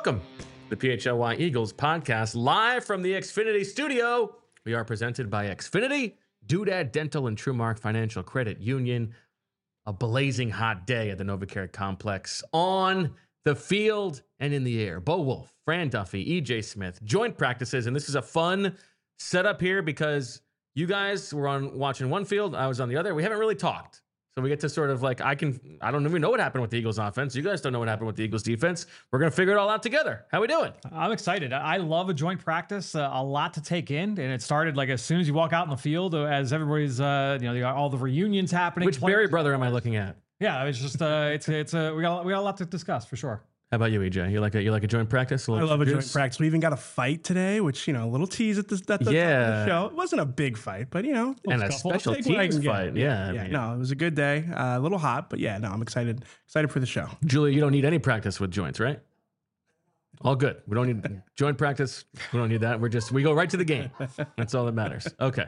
Welcome to the PHLY Eagles podcast, live from the Xfinity studio. We are presented by Xfinity, Doodad Dental and TrueMark Financial Credit Union. A blazing hot day at the NovaCare Complex, on the field and in the air. Bo Wolf, Fran Duffy, EJ Smith, joint practices, and this is a fun setup here because you guys were on watching one field, I was on the other. We haven't really talked. So we get to sort of like, I don't even know what happened with the Eagles offense. You guys don't know what happened with the Eagles defense. We're going to figure it all out together. How we doing? I'm excited. I love a joint practice, a lot to take in. And it started like as soon as you walk out in the field, as everybody's, you got all the reunions happening. Which Barry brother am I looking at? Yeah, it's just, we got a lot to discuss for sure. How about you, EJ? You like a joint practice? I love a joint practice. We even got a fight today, which, a little tease at the show. It wasn't a big fight, but, and a special teams fight. Yeah. No, it was a good day. A little hot, but yeah, no, I'm excited for the show. Julia, you don't need any practice with joints, right? All good. We don't need joint practice. We don't need that. We go right to the game. That's all that matters. Okay.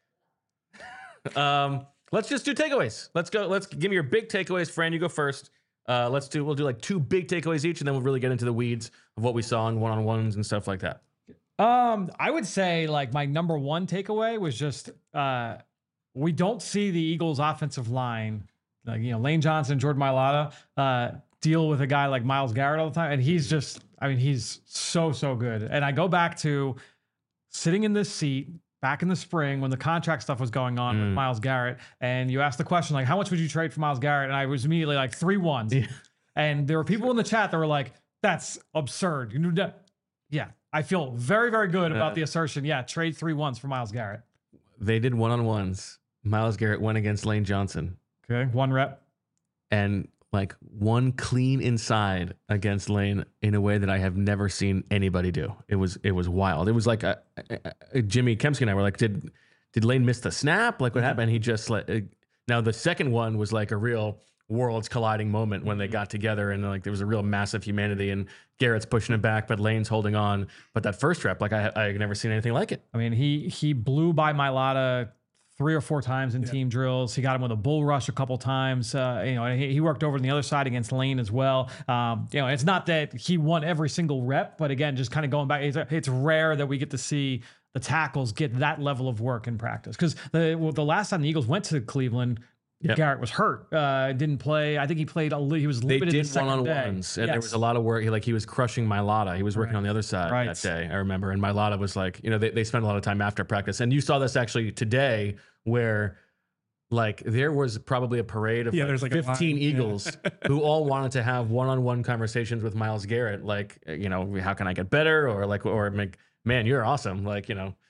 Let's just do takeaways. Let's go. Let's give me your big takeaways. Fran, you go first. We'll do like two big takeaways each, and then we'll really get into the weeds of what we saw in one-on-ones and stuff like that. I would say like my number one takeaway was just we don't see the Eagles offensive line, like, Lane Johnson, Jordan Mailata, deal with a guy like Myles Garrett all the time. And he's so good. And I go back to sitting in this seat back in the spring when the contract stuff was going on with Myles Garrett, and you asked the question, like, how much would you trade for Myles Garrett? And I was immediately like 3 ones. Yeah. And there were people in the chat that were like, that's absurd. Yeah, I feel very, very good about the assertion. Yeah, trade 3 ones for Myles Garrett. They did one-on-ones. Myles Garrett went against Lane Johnson. Okay, 1 rep. And like 1 clean inside against Lane in a way that I have never seen anybody do. It was wild. It was like Jimmy Kempsky and I were like, did Lane miss the snap? Like what happened? He just now the second one was like a real worlds colliding moment when they got together, and like there was a real massive humanity, and Garrett's pushing it back, but Lane's holding on. But that first rep, like I never seen anything like it. I mean, he blew by Mailata 3 or 4 times in team drills. He got him with a bull rush a couple times. He worked over on the other side against Lane as well. It's not that he won every single rep, but again, just kind of going back, it's rare that we get to see the tackles get that level of work in practice. Because the last time the Eagles went to Cleveland, Garrett was hurt, didn't play. I think he played. He was limited. They did one-on-ones, and there was a lot of work. He was crushing Mailata. He was working on the other side that day, I remember. And Mailata was like, they spent a lot of time after practice. And you saw this actually today, where like there was probably a parade of there's 15 Eagles who all wanted to have one-on-one conversations with Myles Garrett. Like, how can I get better? Or man, you're awesome. And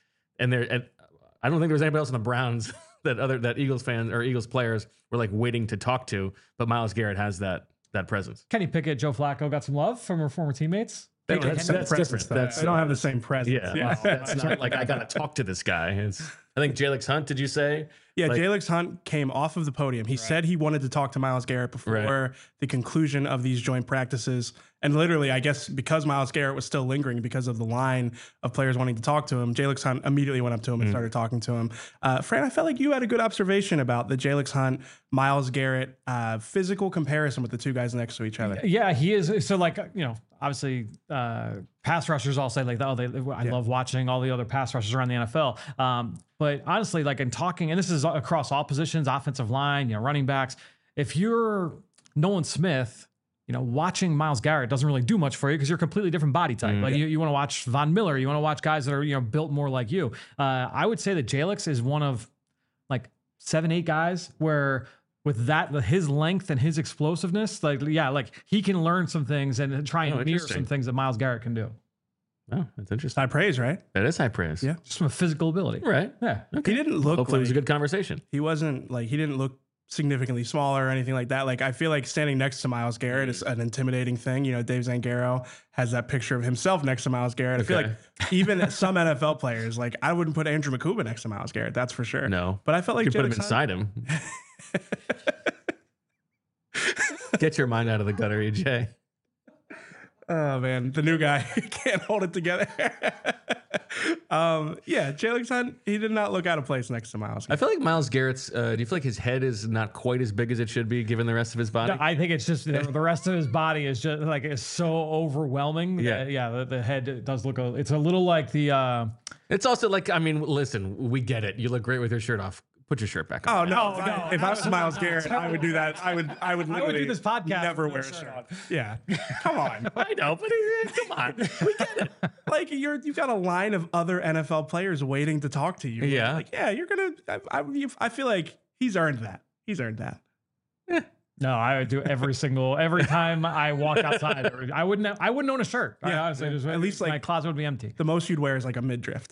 I don't think there was anybody else in the Browns that Eagles fans or Eagles players were like waiting to talk to, but Myles Garrett has that presence. Kenny Pickett, Joe Flacco got some love from her former teammates. That's different. They don't have the same presence. Yeah. That's not like I got to talk to this guy. I think Jalix Hunt, did you say? Yeah, Jalix Hunt came off of the podium. He said he wanted to talk to Myles Garrett before the conclusion of these joint practices. And literally, I guess because Myles Garrett was still lingering because of the line of players wanting to talk to him, Jalix Hunt immediately went up to him and started talking to him. Fran, I felt like you had a good observation about the Jalix Hunt, Myles Garrett physical comparison with the 2 guys next to each other. Yeah, he is. So obviously pass rushers all say like, I love watching all the other pass rushers around the NFL. But honestly, like in talking, and this is across all positions, offensive line, running backs, if you're Nolan Smith, watching Myles Garrett doesn't really do much for you because you're a completely different body type. Like you want to watch Von Miller, you want to watch guys that are, built more like you. I would say that Jalix is one of like 7-8 guys where with his length and his explosiveness, he can learn some things and try and mirror some things that Myles Garrett can do. Oh, that's interesting. High praise, right? That is high praise. Yeah. Just from a physical ability. Right. Yeah. Okay. He didn't look Hopefully it was a good conversation. He didn't look significantly smaller or anything like that. Like, I feel like standing next to Myles Garrett is an intimidating thing. Dave Zangaro has that picture of himself next to Myles Garrett. I feel like even some NFL players, like I wouldn't put Andrew McCubbin next to Myles Garrett. That's for sure. No. But I felt like you put him inside him. Get your mind out of the gutter, EJ. Oh man, the new guy can't hold it together. Jalen Hunt, he did not look out of place next to Myles I Garrett. feel like Myles Garrett's. Do you feel like his head is not quite as big as it should be, given the rest of his body? No, I think it's just the rest of his body is just like it's so overwhelming. Yeah. The head does look. It's a little like the. It's also like, I mean, listen, we get it. You look great with your shirt off. Put your shirt back on. Oh no! No, If I was Myles Garrett, I would do that. I would literally do this podcast never with wear no a shirt shirt. Yeah, come on. I know, but come on, we get it. Like you've got a line of other NFL players waiting to talk to you. Yeah. Like you're gonna. I feel like he's earned that. He's earned that. No, I would do every time I walk outside. I wouldn't own a shirt. Yeah, honestly, at least my like closet would be empty. the most you'd wear is like a midriff.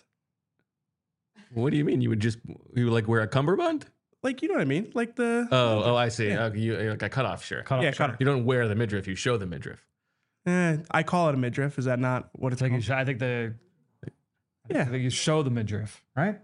What do you mean? You would like wear a cummerbund? Like you know what I mean? Like the Oh, I see. You like a cutoff shirt. Cut off yeah, shirt. cut off. You don't wear the midriff. You show the midriff. I call it a midriff. Is that not what it's Like called? I think Yeah. you show the midriff, right?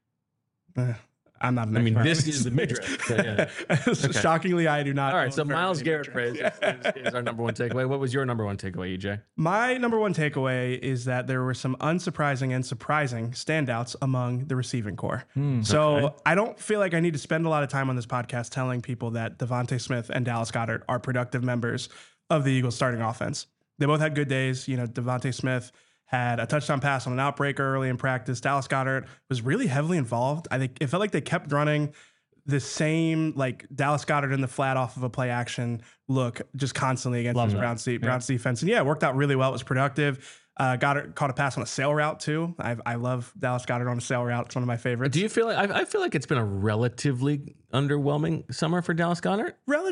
I'm not an I mean, expert. this is the midriff. but yeah. Shockingly, I do not. All right. own So very Myles many Garrett midriffs. praise is our number one takeaway. What was your number one takeaway, EJ? My number one takeaway is that there were some unsurprising and surprising standouts among the receiving core. So I don't feel like I need to spend a lot of time on this podcast telling people that Devontae Smith and Dallas Goedert are productive members of the Eagles starting offense. They both had good days. You know, Devontae Smith had a touchdown pass on an outbreaker early in practice. Dallas Goedert was really heavily involved. I think it felt like they kept running the same, like Dallas Goedert in the flat off of a play action look just constantly against Love this that. Browns defense. And yeah, it worked out really well. It was productive. Goddard caught a pass on a sail route too. I love Dallas Goedert on a sail route. It's one of my favorites. Do you feel like I feel like it's been a relatively underwhelming summer for Dallas Goedert?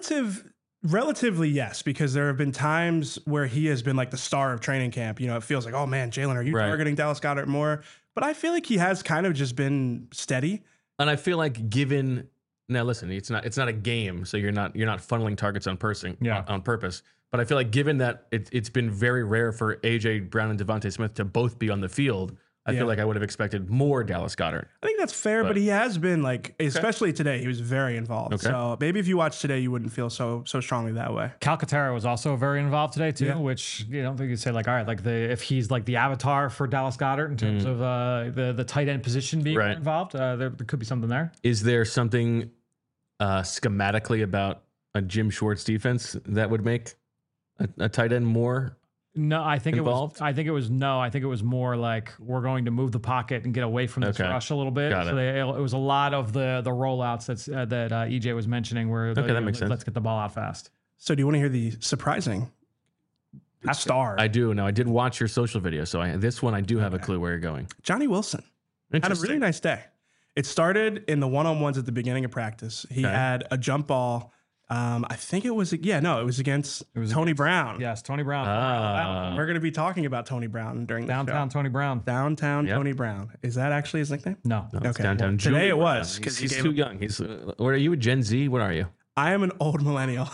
Relatively, yes, because there have been times where he has been like the star of training camp. You know, it feels like, oh man, Jalen, are you Right. targeting Dallas Goedert more? But I feel like he has kind of just been steady. And I feel like given now, listen, it's not a game, so you're not funneling targets on purpose. But I feel like given that it's been very rare for AJ Brown and Devontae Smith to both be on the field, I feel like I would have expected more Dallas Goedert. I think that's fair, but he has been like, especially today, he was very involved. Okay. So maybe if you watch today, you wouldn't feel so strongly that way. Calcaterra was also very involved today too, Yeah. which you don't think you'd say like, all right, like if he's like the avatar for Dallas Goedert in terms of the tight end position being Right. involved, there could be something there. Is there something schematically about a Jim Schwartz defense that would make a tight end more? No, I think Involved? I think it was more like we're going to move the pocket and get away from this Okay. rush a little bit. Got So it was a lot of the rollouts that EJ was mentioning where that makes sense. let's get the ball out fast. So do you want to hear the surprising star? I do. Now I did watch your social video, so this one I do have a clue where you're going. Johnny Wilson had a Interesting. really nice day. It started in the one-on-ones at the beginning of practice. He had a jump ball. I think it was against Tony Brown. Yes, Tony Brown. We're going to be talking about Tony Brown during the Downtown show. Tony Brown. Downtown Yep. Tony Brown. Is that actually his nickname? No. No, it's Okay, downtown. well, Julie today it Brown. was, 'cause he He's gave too him- young. What are you, a Gen Z? What are you? I am an old millennial.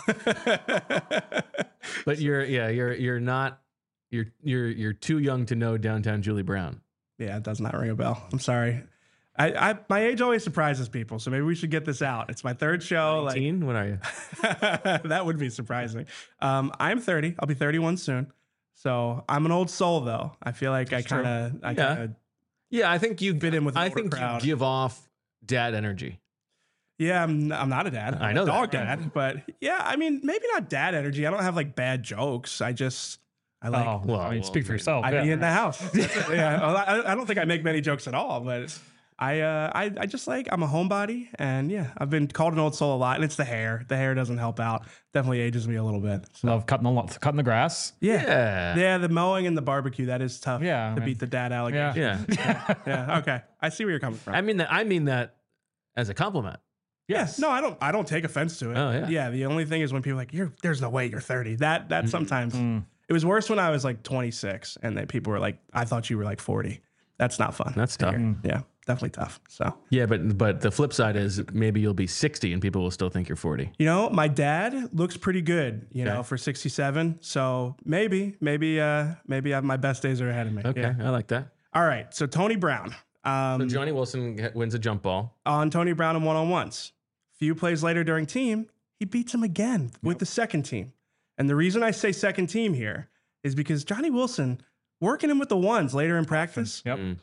But you're not. You're too young to know downtown Julie Brown. Yeah, it does not ring a bell. I'm sorry. My age always surprises people, so maybe we should get this out. It's my third show. 19? What are you? That would be surprising. I'm 30. I'll be 31 soon. So I'm an old soul, though. I feel like I kind of. Yeah, I think you Fit in with the I older think crowd. you give off dad energy. Yeah, I'm not a dad. I I'm know a that. dog dad, but yeah, I mean, maybe not dad energy. I don't have like bad jokes. I like. Oh, well, I mean, well, speak for yourself. I yeah. be in the house. That's it. Yeah, well, I don't think I make many jokes at all, but I just like I'm a homebody, and yeah, I've been called an old soul a lot, and it's the hair. The hair doesn't help out. Definitely ages me a little bit. So, Love cutting the grass. yeah, the mowing and the barbecue, that is tough. Yeah, to man. beat the dad allegation. Yeah. Yeah, okay, I see where you're coming from. I mean that as a compliment. Yes. No, I don't take offense to it. Oh, yeah. Yeah. The only thing is when people are like, there's no way you're 30. That sometimes it was worse when I was like 26 and then people were like, I thought you were like 40. That's not fun. That's tough. Yeah, definitely tough. So, Yeah, but the flip side is maybe you'll be 60 and people will still think you're 40. you know, my dad looks pretty good, you know, for 67. So maybe my best days are ahead of me. Okay, Yeah. I like that. All right. So Tony Brown. So Johnny Wilson wins a jump ball. On Tony Brown in one-on-ones. Few plays later during team, he beats him again with the second team. And the reason I say second team here is because Johnny Wilson, working him with the ones later in practice, Yep.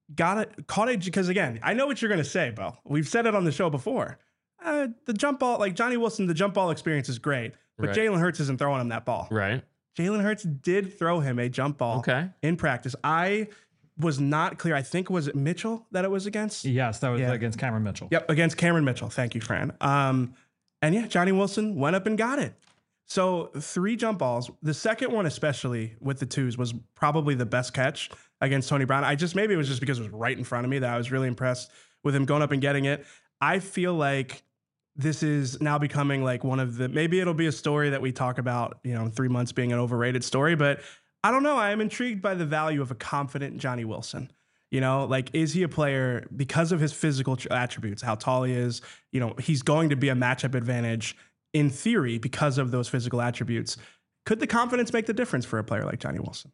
caught it because, again, I know what you're going to say, Bo. We've said it on the show before. The jump ball, like Johnny Wilson, the jump ball experience is great, but Right. Jalen Hurts isn't throwing him that ball. Right. Jalen Hurts did throw him a jump ball in practice. I was not clear. I think, was it Mitchell that it was against? Yes, that was against Cameron Mitchell. Yep, against Cameron Mitchell. Thank you, Fran. And yeah, Johnny Wilson went up and got it. So 3 jump balls. The second one, especially with the twos, was probably the best catch against Tony Brown. Maybe it was just because it was right in front of me that I was really impressed with him going up and getting it. I feel like this is now becoming like one of the, maybe it'll be a story that we talk about, in 3 months being an overrated story, but I don't know. I am intrigued by the value of a confident Johnny Wilson. Is he a player because of his physical attributes, how tall he is? He's going to be a matchup advantage in theory because of those physical attributes. Could the confidence make the difference for a player like Johnny Wilson?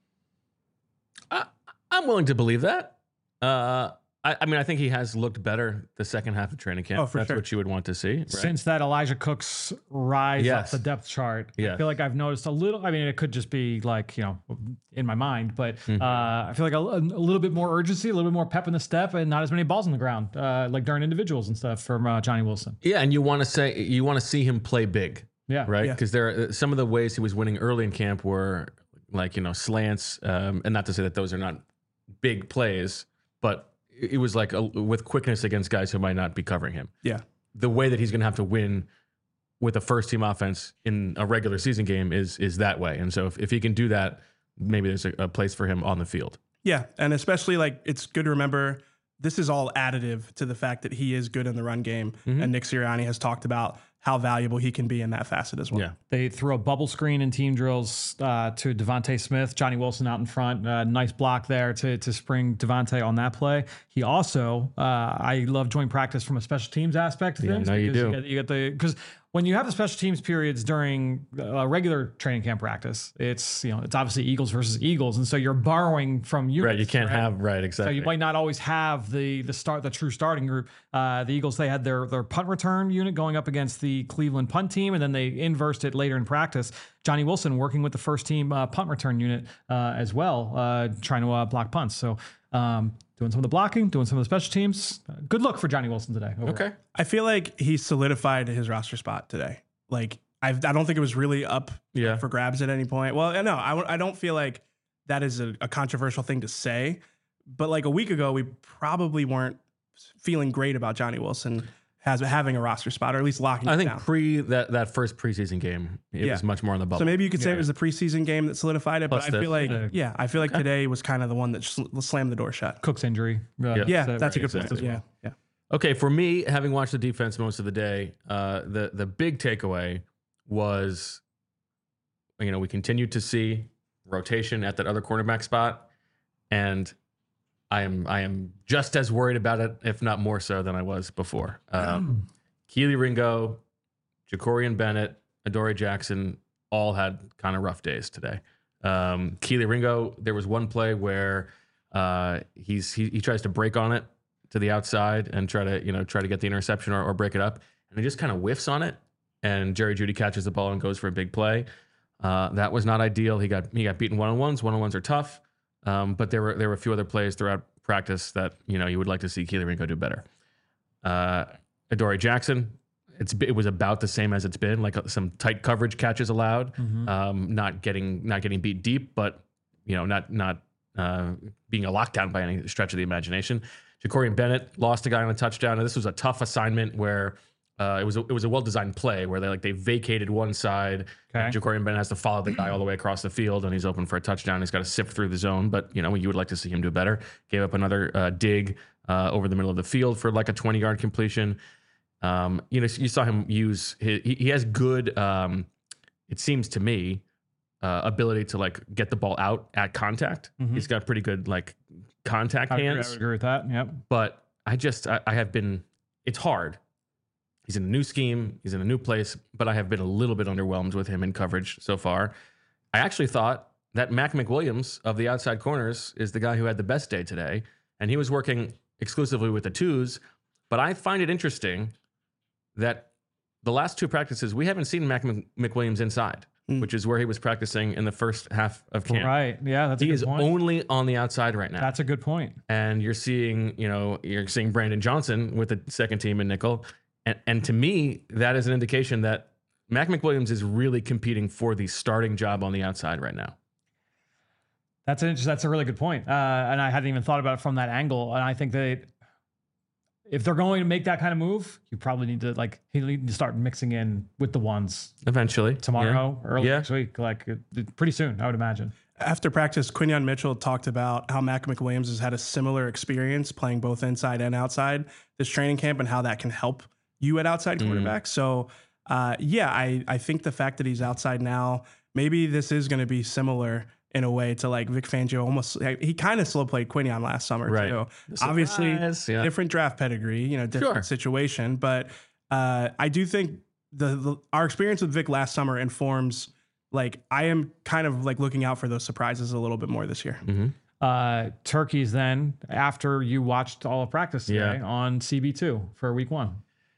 I'm willing to believe that. I think he has looked better the second half of training camp. Oh, for That's sure. what you would want to see. Right? Since that Elijah Cooks rise off the depth chart, I feel like I've noticed a little. I mean, it could just be like, in my mind, but I feel like a little bit more urgency, a little bit more pep in the step, and not as many balls on the ground, like during individuals and stuff from Johnny Wilson. Yeah, and you want to see him play big. Yeah. Right? Yeah. Because there are some of the ways he was winning early in camp were like, slants, and not to say that those are not big plays, but it was like with quickness against guys who might not be covering him. Yeah. The way that he's going to have to win with a first team offense in a regular season game is that way. And so if he can do that, maybe there's a place for him on the field. Yeah. And especially it's good to remember this is all additive to the fact that he is good in the run game. And Nick Sirianni has talked about how valuable he can be in that facet as well. Yeah. They throw a bubble screen in team drills to Devontae Smith, Johnny Wilson out in front. Nice block there to spring Devontae on that play. He also, I love joint practice from a special teams aspect of things. no, you do. You get because when you have the special teams periods during a regular training camp practice, it's obviously Eagles versus Eagles, and so you're borrowing from units. Right. You can't have exactly. So you might not always have the true starting group. The Eagles, they had their punt return unit going up against the Cleveland punt team, and then they inversed it later in practice. Johnny Wilson working with the first team punt return unit as well, trying to block punts. So doing some of the blocking, doing some of the special teams. Good look for Johnny Wilson today. Overall. Okay. I feel like he solidified his roster spot today. I don't think it was really up for grabs at any point. Well, no, I don't feel like that is a controversial thing to say. But like a week ago, we probably weren't feeling great about Johnny Wilson having a roster spot, or at least locking it down. I think that first preseason game, it was much more on the bubble. So maybe you could say it was the preseason game that solidified it. Plus but I feel like today was kind of the one that slammed the door shut. Cook's injury. Yeah, that's a good point. Exactly. Yeah. Okay, for me, having watched the defense most of the day, the big takeaway was, we continued to see rotation at that other cornerback spot, and I am just as worried about it, if not more so than I was before. Keely Ringo, Ja'Cory Bennett, Adoree Jackson all had kind of rough days today. Keely Ringo, there was one play where he tries to break on it to the outside and try to get the interception or break it up, and he just kind of whiffs on it, and Jerry Jeudy catches the ball and goes for a big play. That was not ideal. He got beaten one-on-ones. One-on-ones are tough. But there were a few other plays throughout practice that you would like to see Keely Ringo do better. Adoree Jackson, it was about the same as it's been, like some tight coverage catches allowed, not getting beat deep, but not being a lockdown by any stretch of the imagination. Ja'Cory Bennett lost a guy on a touchdown, and this was a tough assignment where it was a well-designed play where they vacated one side. Okay. Ja'Cory Bennett has to follow the guy all the way across the field, and he's open for a touchdown. He's got to sift through the zone, but you would like to see him do better. Gave up another dig over the middle of the field for like a 20-yard completion. You saw him use he has good, it seems to me, ability to get the ball out at contact. He's got pretty good contact hands. I would agree with that. Yep. But I have been. It's hard. He's in a new scheme. He's in a new place. But I have been a little bit underwhelmed with him in coverage so far. I actually thought that Mac McWilliams of the outside corners is the guy who had the best day today, and he was working exclusively with the twos. But I find it interesting that the last two practices we haven't seen Mac McWilliams inside. which is where he was practicing in the first half of camp. Right. Yeah, that's a He good is point. only on the outside right now. That's a good point. And you're seeing Brandon Johnson with the second team in nickel. And to me, that is an indication that Mac McWilliams is really competing for the starting job on the outside right now. That's a really good point. And I hadn't even thought about it from that angle. And I think that if they're going to make that kind of move, you probably need to start mixing in with the ones Eventually. tomorrow, early next week, pretty soon, I would imagine. After practice, Quinyon Mitchell talked about how Mac McWilliams has had a similar experience playing both inside and outside this training camp and how that can help you at outside quarterback. So, I think the fact that he's outside now, maybe this is going to be similar in a way to like Vic Fangio. He kind of slow played Quinyon last summer too. Obviously, different draft pedigree, different situation. But I do think our experience with Vic last summer informs. Like I am kind of like looking out for those surprises a little bit more this year. Turkeys then after you watched all of practice today on CB2 for week 1.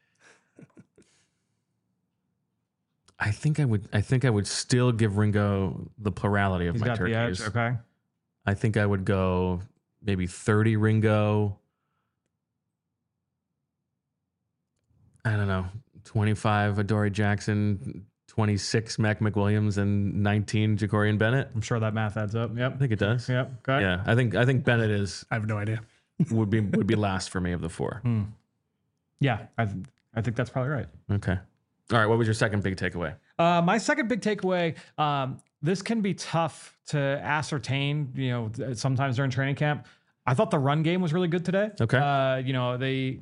I think I would still give Ringo the plurality of my turkeys. The edge, okay. I think I would go maybe 30 Ringo. I don't know, 25 Adoree Jackson, 26 Mac McWilliams, and 19 Jacorian Bennett. I'm sure that math adds up. Yep. I think it does. Yep. Okay. Yeah, I think Bennett is. I have no idea. would be last for me of the 4. Yeah, I think that's probably right. Okay. All right. What was your second big takeaway? My second big takeaway. This can be tough to ascertain. Sometimes during training camp. I thought the run game was really good today. Okay. They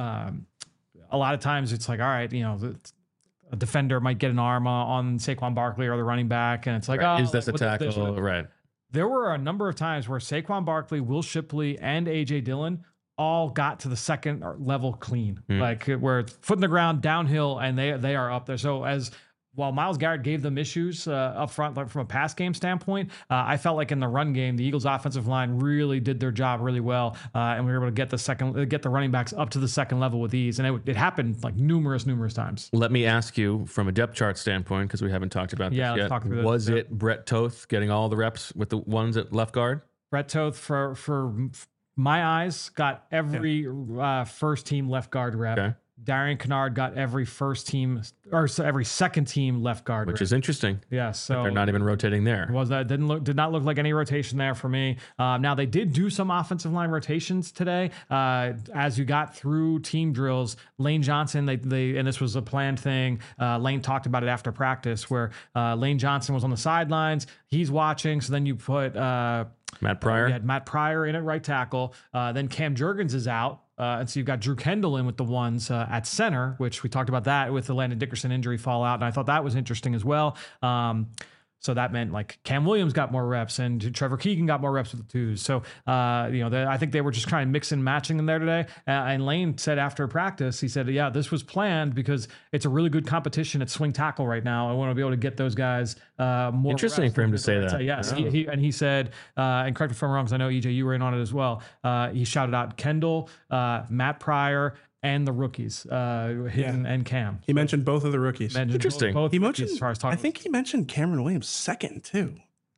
a lot of times it's like, all right, a defender might get an arm on Saquon Barkley or the running back, and it's like, is this a tackle? Right. There were a number of times where Saquon Barkley, Will Shipley, and A.J. Dillon all got to the second level clean, like where it's foot in the ground, downhill, and they are up there. So while Myles Garrett gave them issues up front, like from a pass game standpoint, I felt like in the run game, the Eagles' offensive line really did their job really well, and we were able to get the running backs up to the second level with ease, and it happened like numerous times. Let me ask you from a depth chart standpoint, because we haven't talked about this yet. Talk through Was it Brett Toth getting all the reps with the ones at left guard? Brett Toth, for my eyes, got every first team left guard rep. Okay. Darian Kennard got every every second team left guard, which is interesting. Yes, so they're not even rotating there. Did not look like any rotation there for me. Now they did do some offensive line rotations today. As you got through team drills, Lane Johnson, they and this was a planned thing. Lane talked about it after practice, where Lane Johnson was on the sidelines. He's watching. So then you put Matt Pryor. You had Matt Pryor in at right tackle. Then Cam Jurgens is out. And so you've got Drew Kendall in with the ones at center, which we talked about that with the Landon Dickerson injury fallout. And I thought that was interesting as well. So that meant like Cam Williams got more reps and Trevor Keegan got more reps with the twos. So, I think they were just kind of mixing and matching them there today. And Lane said after practice, he said, yeah, this was planned because it's a really good competition at swing tackle right now. I want to be able to get those guys more. Interesting for him to say that. So, yes. He said, and correct me if I'm wrong, because I know EJ, you were in on it as well. He shouted out Kendall, Matt Pryor, and the rookies, Hinton and Cam. He mentioned both of the rookies. Interesting. Both he rookies, mentioned. as far as I think he mentioned Cameron Williams second too.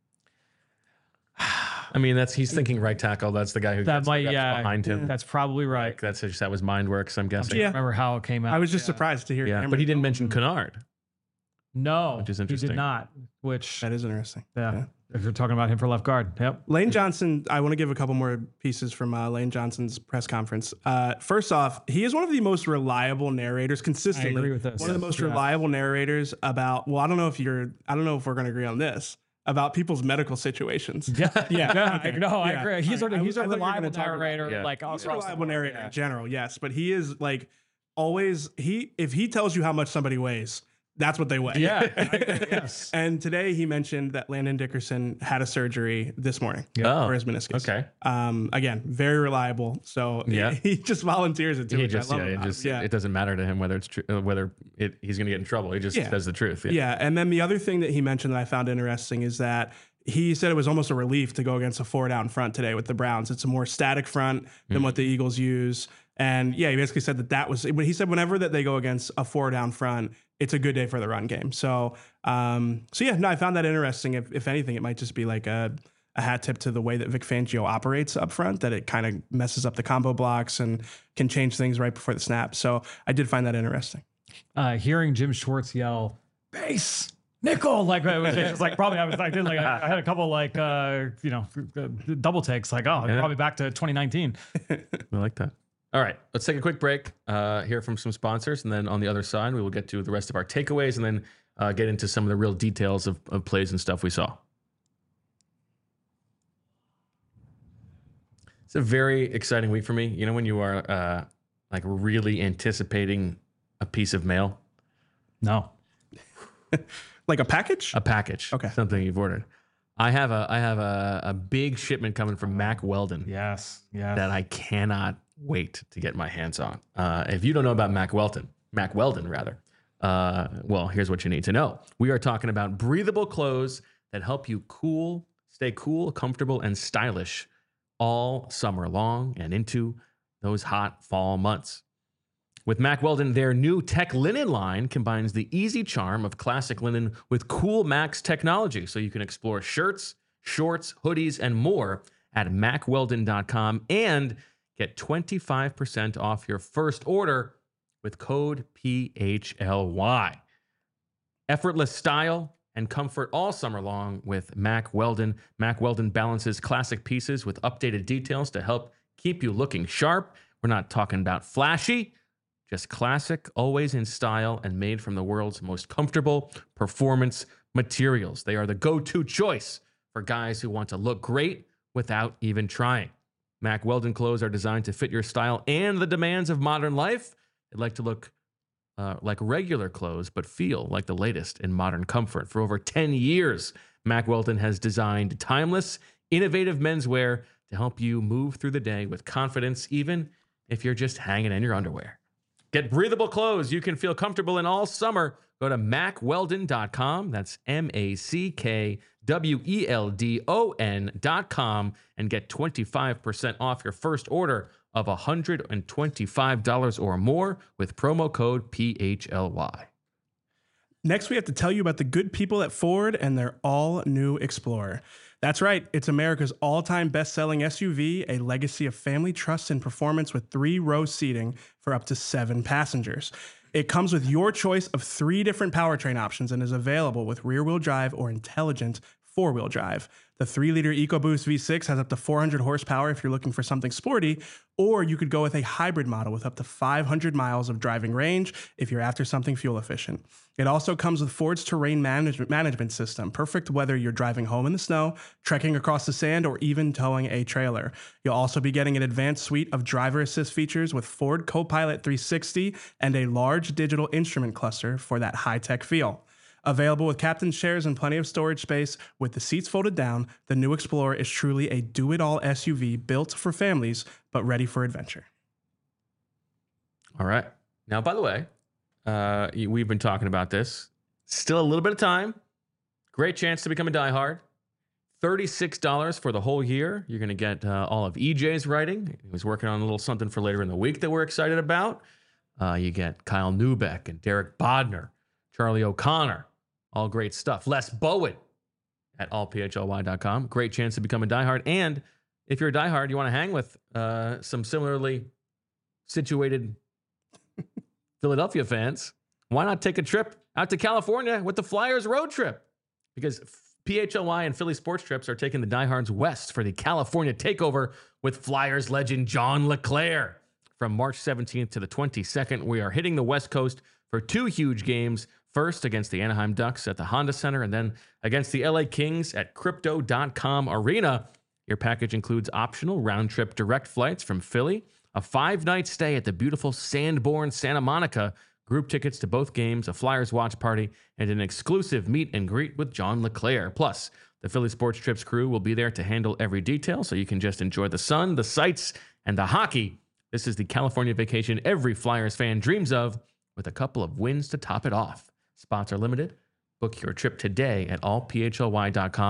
I mean, he's thinking right tackle. That's the guy who gets behind him. That's probably right. Like, that was mind works, I'm guessing. I don't remember how it came out. I was just surprised to hear. Yeah, but he didn't mention Kennard. No, which is interesting. He did not. Which that is interesting. Yeah. If you're talking about him for left guard. Yep. Lane Johnson, I want to give a couple more pieces from Lane Johnson's press conference. First off, he is one of the most reliable narrators consistently. I agree with this. One of the most reliable narrators about, I don't know if we're going to agree on this, about people's medical situations. Yeah. Okay. I agree. He's a reliable narrator. Yeah. Like he's a reliable narrator in general, yes. But he is like always, if he tells you how much somebody weighs, that's what they weigh. Yeah. Yes. And today he mentioned that Landon Dickerson had a surgery this morning for his meniscus. Okay. Again, very reliable. So he just volunteers it to me. It doesn't matter to him whether it's true, he's going to get in trouble. He just says the truth. Yeah. And then the other thing that he mentioned that I found interesting is that he said it was almost a relief to go against a 4-down front today with the Browns. It's a more static front than what the Eagles use. And yeah, he basically said that was, he said whenever that they go against a 4-down front, it's a good day for the run game. So yeah, no, I found that interesting. If anything, it might just be like a hat tip to the way that Vic Fangio operates up front, that it kind of messes up the combo blocks and can change things right before the snap. So I did find that interesting. Hearing Jim Schwartz yell base nickel, like it was like probably I had a couple like double takes, like probably back to 2019. I like that. All right, let's take a quick break, hear from some sponsors, and then on the other side, we will get to the rest of our takeaways and then get into some of the real details of plays and stuff we saw. It's a very exciting week for me. You know, when you are like really anticipating a piece of mail? No. Like a package? A package. Okay. Something you've ordered. I have a big shipment coming from Mack Weldon. Yes. That I cannot wait to get my hands on. If you don't know about Mack Weldon, well, here's what you need to know. We are talking about breathable clothes that help you stay cool, comfortable, and stylish all summer long and into those hot fall months. With Mack Weldon, their new Tech Linen line combines the easy charm of classic linen with cool Max technology, so you can explore shirts, shorts, hoodies, and more at MackWeldon.com and get 25% off your first order with code PHLY. Effortless style and comfort all summer long with Mack Weldon. Mack Weldon balances classic pieces with updated details to help keep you looking sharp. We're not talking about flashy, just classic, always in style, and made from the world's most comfortable performance materials. They are the go-to choice for guys who want to look great without even trying. Mack Weldon clothes are designed to fit your style and the demands of modern life. They like to look like regular clothes, but feel like the latest in modern comfort. For over 10 years, Mack Weldon has designed timeless, innovative menswear to help you move through the day with confidence, even if you're just hanging in your underwear. Get breathable clothes you can feel comfortable in all summer. Go to MackWeldon.com. That's MackWeldon.com and get 25% off your first order of $125 or more with promo code PHLY. Next, we have to tell you about the good people at Ford and their all-new Explorer. That's right. It's America's all-time best-selling SUV, a legacy of family trust and performance with 3-row seating for up to 7 passengers. It comes with your choice of 3 different powertrain options and is available with rear-wheel drive or intelligent 4-wheel drive. The 3-liter EcoBoost V6 has up to 400 horsepower if you're looking for something sporty, or you could go with a hybrid model with up to 500 miles of driving range if you're after something fuel efficient. It also comes with Ford's terrain management system, perfect whether you're driving home in the snow, trekking across the sand, or even towing a trailer. You'll also be getting an advanced suite of driver assist features with Ford Copilot 360 and a large digital instrument cluster for that high-tech feel. Available with captain's chairs and plenty of storage space, with the seats folded down, the new Explorer is truly a do-it-all SUV built for families, but ready for adventure. All right. Now, by the way, we've been talking about this. Still a little bit of time. Great chance to become a diehard. $36 for the whole year. You're going to get all of EJ's writing. He was working on a little something for later in the week that we're excited about. You get Kyle Neubeck and Derek Bodner, Charlie O'Connor. All great stuff. Les Bowen at allphly.com. Great chance to become a diehard. And if you're a diehard, you want to hang with some similarly situated Philadelphia fans, why not take a trip out to California with the Flyers road trip? Because PHLY and Philly Sports Trips are taking the diehards west for the California takeover with Flyers legend John LeClair. From March 17th to the 22nd, we are hitting the West Coast for 2 huge games. First against the Anaheim Ducks at the Honda Center, and then against the LA Kings at Crypto.com Arena. Your package includes optional round-trip direct flights from Philly, a 5-night stay at the beautiful Sanborn Santa Monica, group tickets to both games, a Flyers watch party, and an exclusive meet and greet with John LeClair. Plus, the Philly Sports Trips crew will be there to handle every detail, so you can just enjoy the sun, the sights, and the hockey. This is the California vacation every Flyers fan dreams of, with a couple of wins to top it off. Spots are limited. Book your trip today at allphly.com.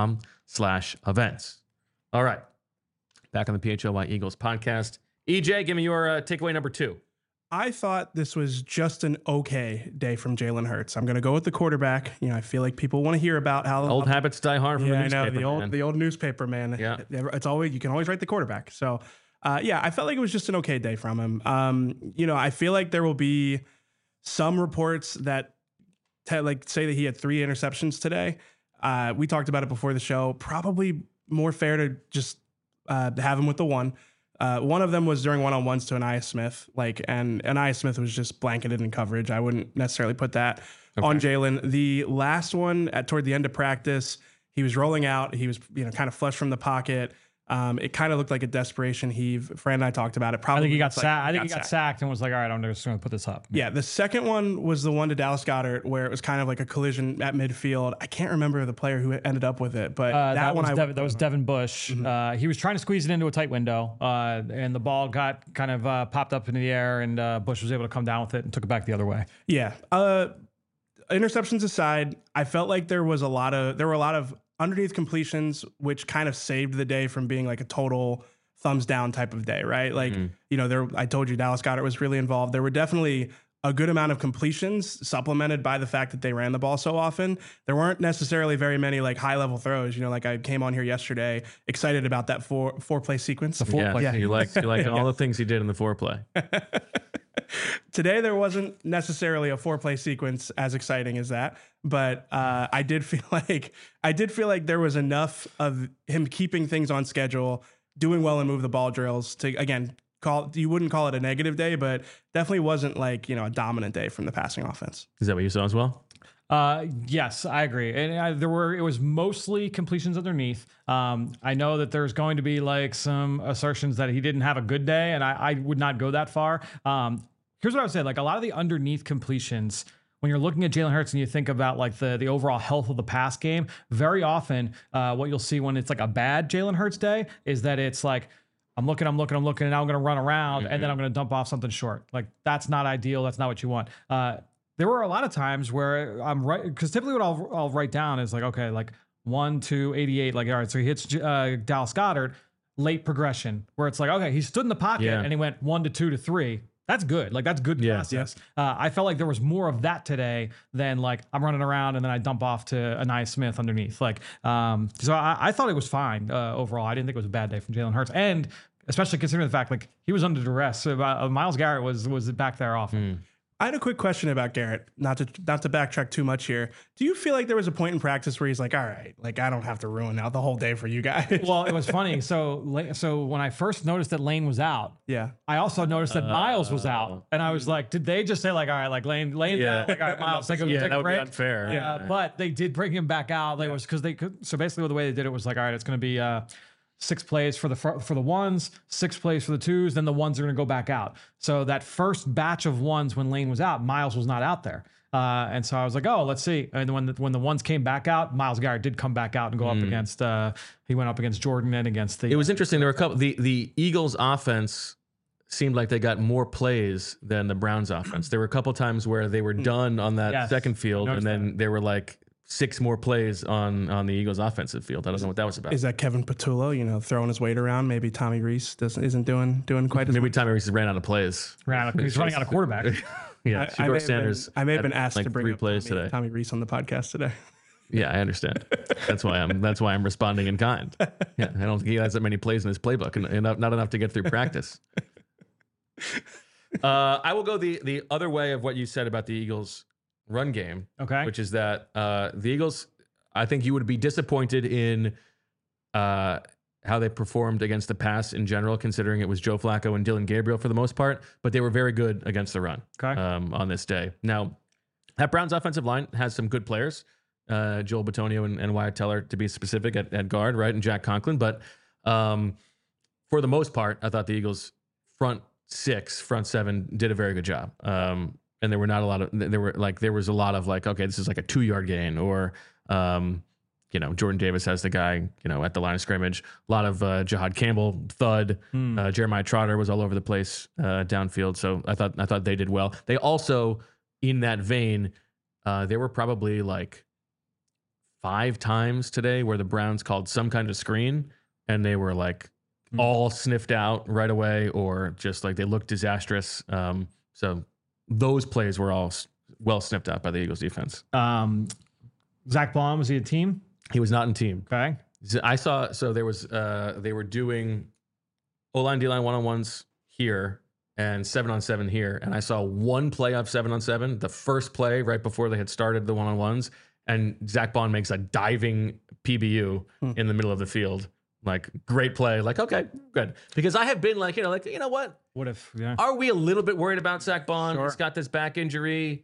PHLY.com/events. All right. Back on the PHLY Eagles podcast. EJ, give me your takeaway number 2. I thought this was just an okay day from Jalen Hurts. I'm going to go with the quarterback. You know, I feel like people want to hear about how Old habits die hard from the newspaper. I know, the old newspaper man. Yeah, it's always, you can always write the quarterback. So, I felt like it was just an okay day from him. You know, I feel like there will be some reports that say that he had 3 interceptions today. We talked about it before the show. Probably more fair to just have him with the 1. One of them was during one-on-ones to Ainias Smith, and Ainias Smith was just blanketed in coverage. I wouldn't necessarily put that on Jalen. The last one toward the end of practice, he was rolling out. He was, kind of flush from the pocket. It kind of looked like a desperation heave. Fran and I talked about it. Probably I think he got sacked. I think he got sacked and was like, all right, I'm just going to put this up. Yeah. The second one was the one to Dallas Goedert where it was kind of like a collision at midfield. I can't remember the player who ended up with it, but that was Devin Bush. Mm-hmm. He was trying to squeeze it into a tight window, and the ball got kind of popped up into the air, and Bush was able to come down with it and took it back the other way. Yeah. Interceptions aside, I felt like there were a lot of underneath completions, which kind of saved the day from being like a total thumbs down type of day, right? Like, I told you Dallas Goedert was really involved. There were definitely a good amount of completions supplemented by the fact that they ran the ball so often. There weren't necessarily very many like high level throws. Like I came on here yesterday excited about that four play sequence. You like all the things he did in the 4-play. Today there wasn't necessarily a 4-play sequence as exciting as that, but I did feel like there was enough of him keeping things on schedule, doing well and move the ball drills to, again, you wouldn't call it a negative day, but definitely wasn't like, a dominant day from the passing offense. Is that what you saw as well? Yes, I agree. And it was mostly completions underneath. I know that there's going to be like some assertions that he didn't have a good day, and I would not go that far. Here's what I would say. Like a lot of the underneath completions, when you're looking at Jalen Hurts and you think about like the overall health of the pass game, very often, what you'll see when it's like a bad Jalen Hurts day is that it's like, I'm looking, and now I'm going to run around and then I'm going to dump off something short. Like that's not ideal. That's not what you want. There were a lot of times where I'm right, because typically what I'll write down is like, okay, like 1 to 88, like, all right, so he hits Dallas Goedert, late progression, where it's like, okay, he stood in the pocket and he went 1 to 2 to 3. That's good. Like that's good process. Yes. I felt like there was more of that today than like I'm running around and then I dump off to Ainias Smith underneath. Like, so I thought it was fine overall. I didn't think it was a bad day from Jalen Hurts, and especially considering the fact like he was under duress. So, Myles Garrett was back there often. I had a quick question about Garrett, not to backtrack too much here. Do you feel like there was a point in practice where he's like, all right, like I don't have to ruin out the whole day for you guys? Well, it was funny. So when I first noticed that Lane was out, I also noticed that Myles was out, and I was like, did they just say like, all right, like Lane out, like all right, Myles, take a break? That would be unfair. Yeah, but they did bring him back out. It was because they could. So basically, the way they did it was like, all right, it's going to be 6 plays for the ones, 6 plays for the twos, then the ones are going to go back out. So that first batch of ones when Lane was out, Myles was not out there. And so I was like, oh, let's see. And when the ones came back out, Myles Garrett did come back out and go up against, he went up against Jordan and against the. It was interesting. There were a couple, the Eagles offense seemed like they got more plays than the Browns offense. There were a couple times where they were done on that second field, and then there were like 6 more plays on the Eagles offensive field. I don't know what that was about. Is that Kevin Patullo, throwing his weight around? Maybe Tommy Reese isn't doing quite as Maybe Tommy Reese ran out of plays. He's running out of quarterback. Yeah, Shedeur Sanders. I may have been asked like to bring 3 up plays today. Tommy Reese on the podcast today. Yeah, I understand. That's why I'm responding in kind. Yeah, I don't think he has that many plays in his playbook, and not enough to get through practice. I will go the other way of what you said about the Eagles' run game, okay, which is that the Eagles, I think you would be disappointed in how they performed against the pass in general, considering it was Joe Flacco and Dylan Gabriel for the most part, but they were very good against the run on this day. Now, that Browns offensive line has some good players, Joel Bitonio and Wyatt Teller, to be specific, at guard, right, and Jack Conklin, but for the most part, I thought the Eagles' front 7 did a very good job. And there were not a lot of, there was a lot of like, okay, this is like a 2-yard gain, or, Jordan Davis has the guy, at the line of scrimmage. A lot of Jahad Campbell, thud. Jeremiah Trotter was all over the place downfield. So I thought they did well. They also, in that vein, there were probably like 5 times today where the Browns called some kind of screen and they were like all sniffed out right away, or just like they looked disastrous. So those plays were all well sniffed out by the Eagles defense. Zach Baum, was he a team? He was not in team. Okay. I saw, so there was, they were doing O-line, D-line one-on-ones here and 7-on-7 here. And I saw one play of 7-on-7, the first play right before they had started the one-on-ones. And Zach Baum makes a diving PBU in the middle of the field. Like, great play. Like, okay, good. Because I have been like, you know what? What if, yeah. Are we a little bit worried about Zach Baum? Sure. He's got this back injury.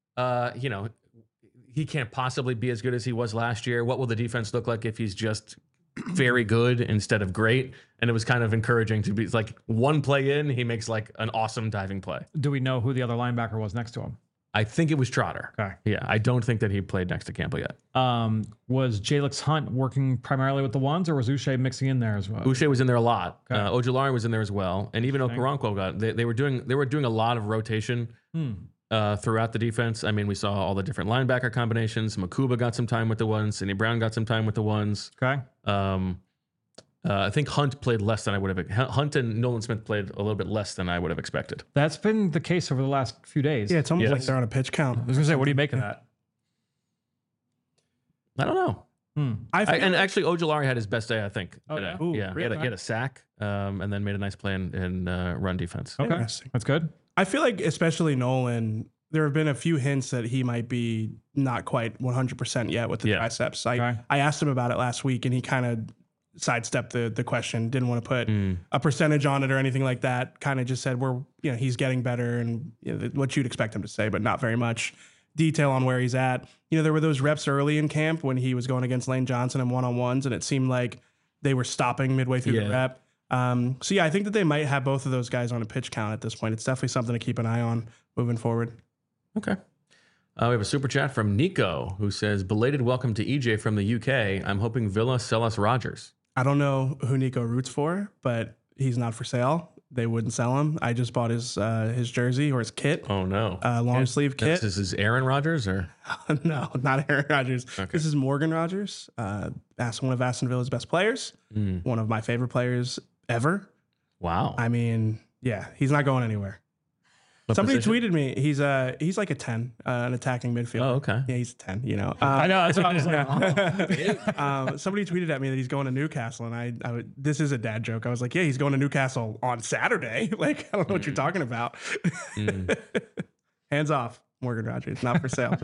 He can't possibly be as good as he was last year. What will the defense look like if he's just very good instead of great? And it was kind of encouraging to be like one play in, he makes like an awesome diving play. Do we know who the other linebacker was next to him? I think it was Trotter. Okay. Yeah, I don't think that he played next to Campbell yet. Was Jalix Hunt working primarily with the ones, or was Uche mixing in there as well? Uche was in there a lot. Okay. Ojulari was in there as well, and even Okoronkwo got. They were doing a lot of rotation throughout the defense. I mean, we saw all the different linebacker combinations. Makuba got some time with the ones. Sidney Brown got some time with the ones. Okay. I think Hunt played less than I would have. Hunt and Nolan Smith played a little bit less than I would have expected. That's been the case over the last few days. Yeah, it's almost like they're on a pitch count. I was gonna say, what do you make of that? I don't know. And actually, Ojulari had his best day, I think. Oh, today. yeah? Ooh, yeah. He had a sack, and then made a nice play in run defense. Okay, Interesting. that's good. I feel like, especially Nolan, there have been a few hints that he might be not quite 100% yet with the triceps. I asked him about it last week, and he kind of sidestepped the question. Didn't want to put a percentage on it or anything like that. Kind of just said he's getting better, and what you'd expect him to say, but not very much detail on where he's at. There were those reps early in camp when he was going against Lane Johnson in one-on-ones, and it seemed like they were stopping midway through the rep. So I think that they might have both of those guys on a pitch count at this point. It's definitely something to keep an eye on moving forward. Okay. We have a super chat from Nico who says, belated welcome to EJ from the UK. I'm hoping Villa sell us Rodgers. I don't know who Nico roots for, but he's not for sale. They wouldn't sell him. I just bought his jersey or his kit. Oh, no. Long sleeve kit. This is Aaron Rodgers or? No, not Aaron Rodgers. Okay. This is Morgan Rodgers, one of Aston Villa's best players, one of my favorite players ever. Wow. I mean, yeah, he's not going anywhere. What Somebody position? tweeted me. He's like a 10, an attacking midfielder. Oh, okay. Yeah, he's a 10. I know. That's what I was like. Somebody tweeted at me that he's going to Newcastle, and this is a dad joke. I was like, yeah, he's going to Newcastle on Saturday. Like, I don't know what you're talking about. Hands off, Morgan Rodgers, not for sale.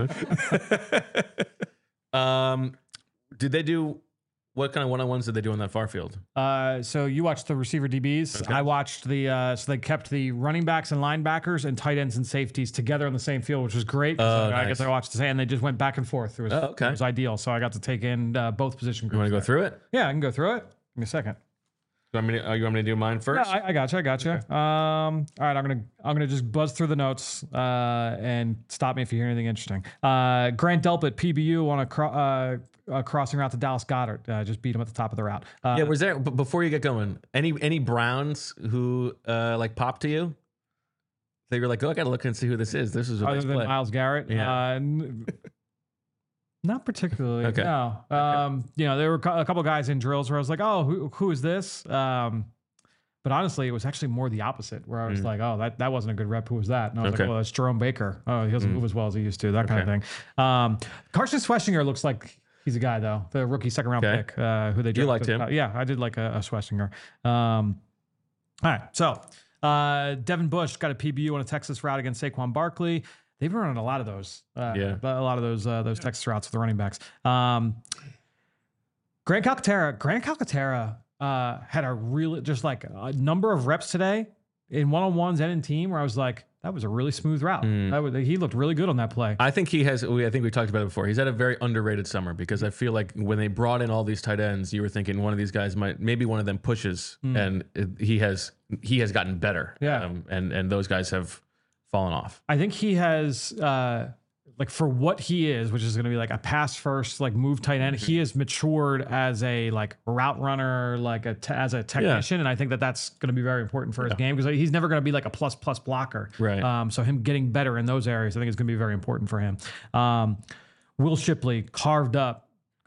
Did they do? What kind of one-on-ones did they do on that far field? So you watched the receiver DBs. Okay. I watched so they kept the running backs and linebackers and tight ends and safeties together on the same field, which was great. I guess I watched the same, and they just went back and forth. It was, okay. It was ideal. So I got to take in both position groups. You want to go through it? Yeah, I can go through it. Give me a second. You want me to do mine first? Yeah, I got you. Okay. All right, I'm gonna just buzz through the notes and stop me if you hear anything interesting. Grant Delpit PBU on a crossing route to Dallas Goedert. Just beat him at the top of the route. Yeah, was there? But before you get going, any Browns who like popped to you? They were like, oh, I gotta look and see who this is. This is a other nice than play. Myles Garrett. Yeah. Not particularly. Okay. No. There were a couple guys in drills where I was like, oh, who is this? But honestly, it was actually more the opposite, where I was like, oh, that wasn't a good rep. Who was that? And I was like, well, that's Jerome Baker. Oh, he doesn't move as well as he used to. That kind of thing. Carson Schwessinger looks like he's a guy, though. The rookie second-round pick who they drafted. You liked him? Yeah, I did like a Schwessinger. All right, so Devin Bush got a PBU on a Texas route against Saquon Barkley. They've been running a lot of those. A lot of those Texas routes with the running backs. Grant Calcaterra had a really just like a number of reps today in one-on-ones and in team where I was like, that was a really smooth route. He looked really good on that play. I think he has. I think we talked about it before. He's had a very underrated summer because I feel like when they brought in all these tight ends, you were thinking one of these guys maybe one of them pushes, and he has gotten better. Yeah. And those guys have fallen off. I think he has, like for what he is, which is going to be like a pass first, like move tight end. He has matured as a like route runner, like as a technician, and I think that's going to be very important for his game because he's never going to be like a plus blocker. Right. So him getting better in those areas, I think is going to be very important for him. Will Shipley carved up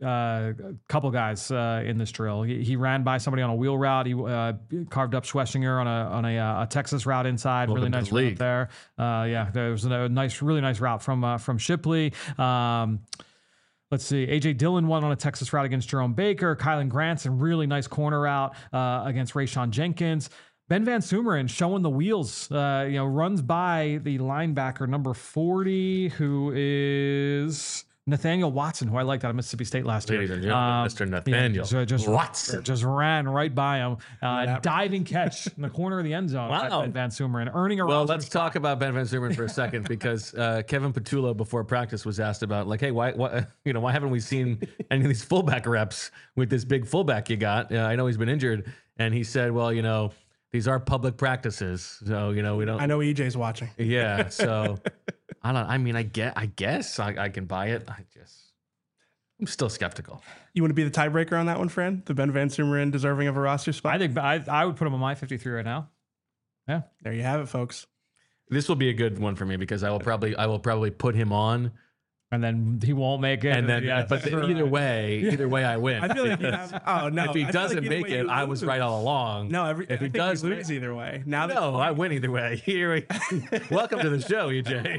a couple guys in this drill. He ran by somebody on a wheel route. He carved up Schwessinger on a Texas route inside. Welcome really to nice the route league. there. Yeah, there was a really nice route from Shipley. Let's see. AJ Dillon won on a Texas route against Jerome Baker. Kylan Granson, really nice corner route against Rayshon Jenkins. Ben Van Sumeren showing the wheels, runs by the linebacker number 40, who is Nathaniel Watson, who I liked out of Mississippi State last year. Ladies and gentlemen, Mr. Nathaniel Watson. Just ran right by him. Diving catch in the corner of the end zone. Wow. By Van Sumeren, earning a Well, roster let's spot. talk about Ben Van Sumeren for a second because Kevin Patullo before practice was asked about like, hey, why haven't we seen any of these fullback reps with this big fullback you got? I know he's been injured, and he said, well, these are public practices, so we don't. I know EJ's watching. Yeah, so I don't. I mean, I guess I can buy it. I'm still skeptical. You want to be the tiebreaker on that one, friend? The Ben Van Sumeren deserving of a roster spot? I think I would put him on my 53 right now. Yeah. There you have it, folks. This will be a good one for me because I will probably put him on, And then he won't make it. and then either way, I win. I feel like you have, oh no. If he I feel doesn't like either make way it, you I was lose. right all along. No, if I he think does you lose either way. Now that No, I win either way. Welcome to the show, EJ.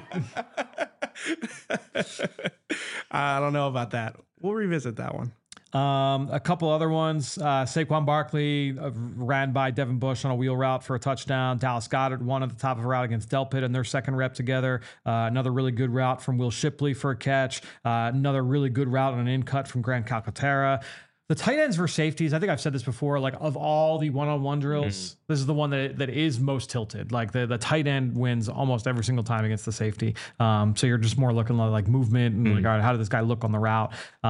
I don't know about that. We'll revisit that one. A couple other ones. Saquon Barkley ran by Devin Bush on a wheel route for a touchdown. Dallas Goedert won at the top of a route against Delpit in their second rep together. Another really good route from Will Shipley for a catch. Another really good route on an in cut from Grant Calcaterra. The tight ends versus safeties, I think I've said this before, like of all the one-on-one drills, this is the one that is most tilted. Like the tight end wins almost every single time against the safety. So you're just more looking like movement and like, all right, how did this guy look on the route?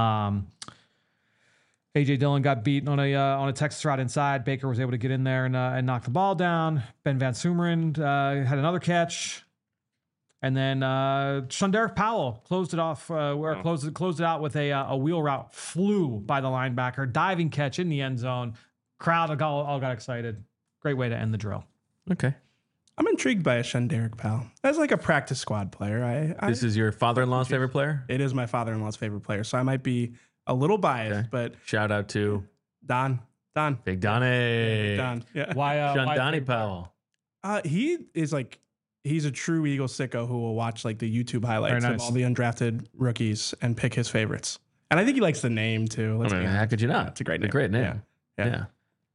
AJ Dillon got beaten on a Texas route inside. Baker was able to get in there and knock the ball down. Ben Van Sumeren had another catch. And then Shunderick Powell closed it off, closed it out with a wheel route, flew by the linebacker, diving catch in the end zone. Crowd all got excited. Great way to end the drill. Okay. I'm intrigued by a Shunderick Powell. As like a practice squad player. This is your father-in-law's favorite player? It is my father-in-law's favorite player, so I might be a little biased, but Shout out to Don. Big Donnie. Don. Yeah. Why? Shundani Powell. He is like, he's a true Eagle sicko who will watch like the YouTube highlights Very of nice. all the undrafted rookies and pick his favorites. And I think he likes the name too. Let's be honest. How could you not? It's a great It's name. a great name. Yeah.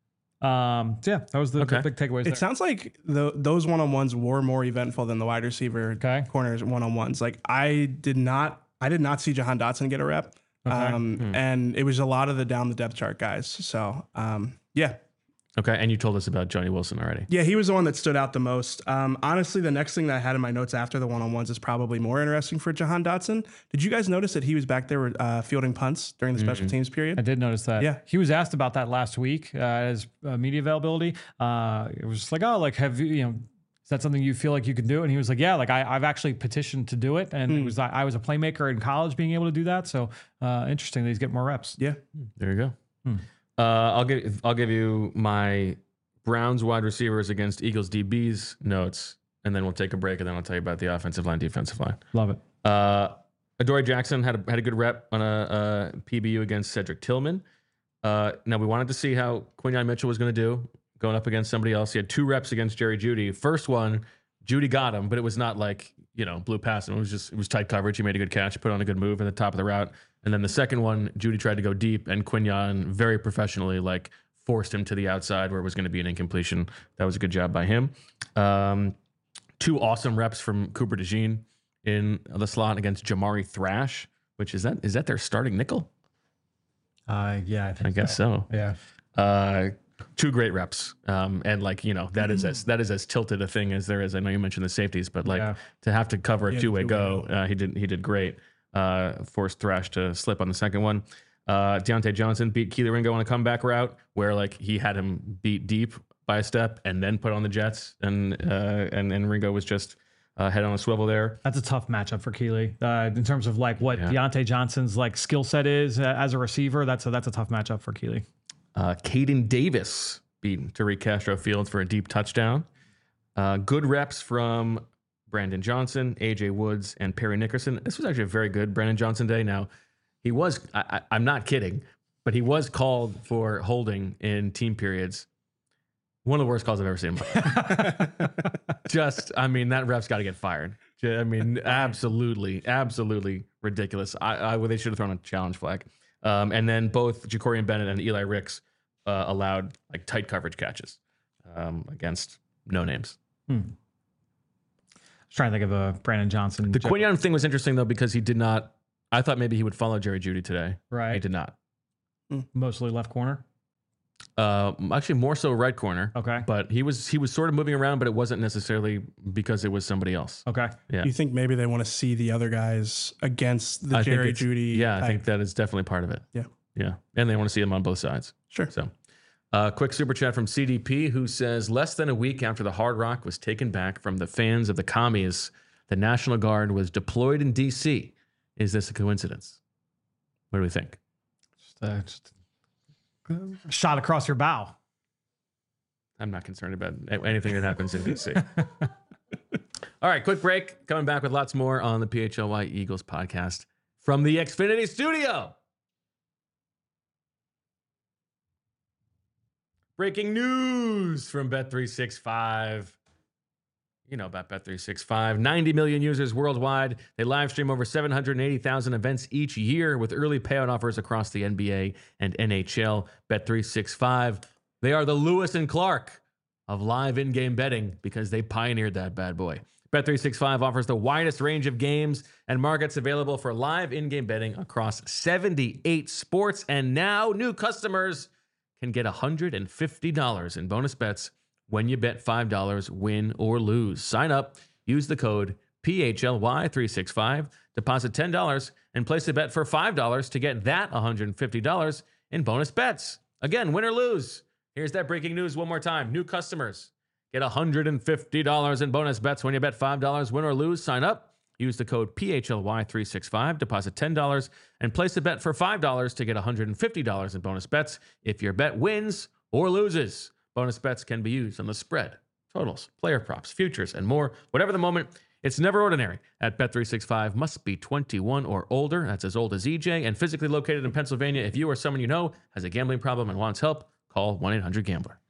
That was the big takeaways. It sounds like those one-on-ones were more eventful than the wide receiver corners one-on-ones. Like I did not see Jahan Dotson get a rep. And it was a lot of the down the depth chart guys. So yeah. Okay. And you told us about Johnny Wilson already. Yeah, he was the one that stood out the most. Honestly, the next thing that I had in my notes after the one-on-ones is probably more interesting for Jahan Dotson. Did you guys notice that he was back there fielding punts during the special teams period? I did notice that. Yeah. He was asked about that last week at his media availability. It was just like, oh, like, have you, is that something you feel like you can do? And he was like, yeah, like I've actually petitioned to do it. And it was I was a playmaker in college being able to do that. So interesting that he's getting more reps. Yeah. There you go. I'll give you my Browns wide receivers against Eagles DBs notes, and then we'll take a break, and then I'll tell you about the offensive line, defensive line. Love it. Adoree Jackson had a good rep on a PBU against Cedric Tillman. Now we wanted to see how Quinyon Mitchell was going to do going up against somebody else. He had 2 reps against Jerry Jeudy. First one, Jeudy got him, but it was not like blew past him. It was tight coverage. He made a good catch, put on a good move at the top of the route. And then the second one, Jeudy tried to go deep, and Quinyon very professionally forced him to the outside where it was going to be an incompletion. That was a good job by him. 2 awesome reps from Cooper DeJean in the slot against Jamari Thrash, which is that their starting nickel? Yeah, I guess so. Yeah. 2 great reps. And that is as tilted a thing as there is. I know you mentioned the safeties, but to have to cover a two-way go, he did great. Forced Thrash to slip on the second one. Deontay Johnson beat Keely Ringo on a comeback route where he had him beat deep by a step and then put on the Jets, and Ringo was just head on a swivel there. That's a tough matchup for Keely in terms of what Deontay Johnson's skill set is as a receiver. That's a tough matchup for Keely. Caden Davis beat Tariq Castro Fields for a deep touchdown. Good reps from Brandon Johnson, AJ Woods, and Perry Nickerson. This was actually a very good Brandon Johnson day. Now, He was, I'm not kidding, but he was called for holding in team periods. One of the worst calls I've ever seen. That ref's got to get fired. Absolutely ridiculous. They should have thrown a challenge flag. And then both Jacorian Bennett and Eli Ricks allowed like tight coverage catches against no names. I was trying to think of a Brandon Johnson. The Quinyon thing was interesting though because he did not. I thought maybe he would follow Jerry Jeudy today. Right. He did not. Mostly left corner. Actually, more so right corner. Okay. But he was sort of moving around, but it wasn't necessarily because it was somebody else. Okay. Yeah. Do you think maybe they want to see the other guys against the Jerry Jeudy? Yeah, type? I think that is definitely part of it. Yeah. Yeah. And they want to see him on both sides. Sure. So, quick super chat from CDP who says, less than a week after the Hard Rock was taken back from the fans of the commies, the National Guard was deployed in D.C. Is this a coincidence? What do we think? Just a shot across your bow. I'm not concerned about anything that happens in D.C. All right, quick break. Coming back with lots more on the PHLY Eagles podcast from the Xfinity studio. Breaking news from Bet365. You know about Bet365. 90 million users worldwide. They live stream over 780,000 events each year with early payout offers across the NBA and NHL. Bet365. They are the Lewis and Clark of live in-game betting because they pioneered that bad boy. Bet365 offers the widest range of games and markets available for live in-game betting across 78 sports. And now new customers can get $150 in bonus bets when you bet $5, win or lose. Sign up, use the code PHLY365, deposit $10, and place a bet for $5 to get that $150 in bonus bets. Again, win or lose. Here's that breaking news one more time. New customers get $150 in bonus bets when you bet $5, win or lose. Sign up, use the code PHLY365, deposit $10, and place a bet for $5 to get $150 in bonus bets if your bet wins or loses. Bonus bets can be used on the spread, totals, player props, futures, and more. Whatever the moment, it's never ordinary. At Bet365, must be 21 or older. That's as old as EJ and physically located in Pennsylvania. If you or someone you know has a gambling problem and wants help, call 1-800-GAMBLER.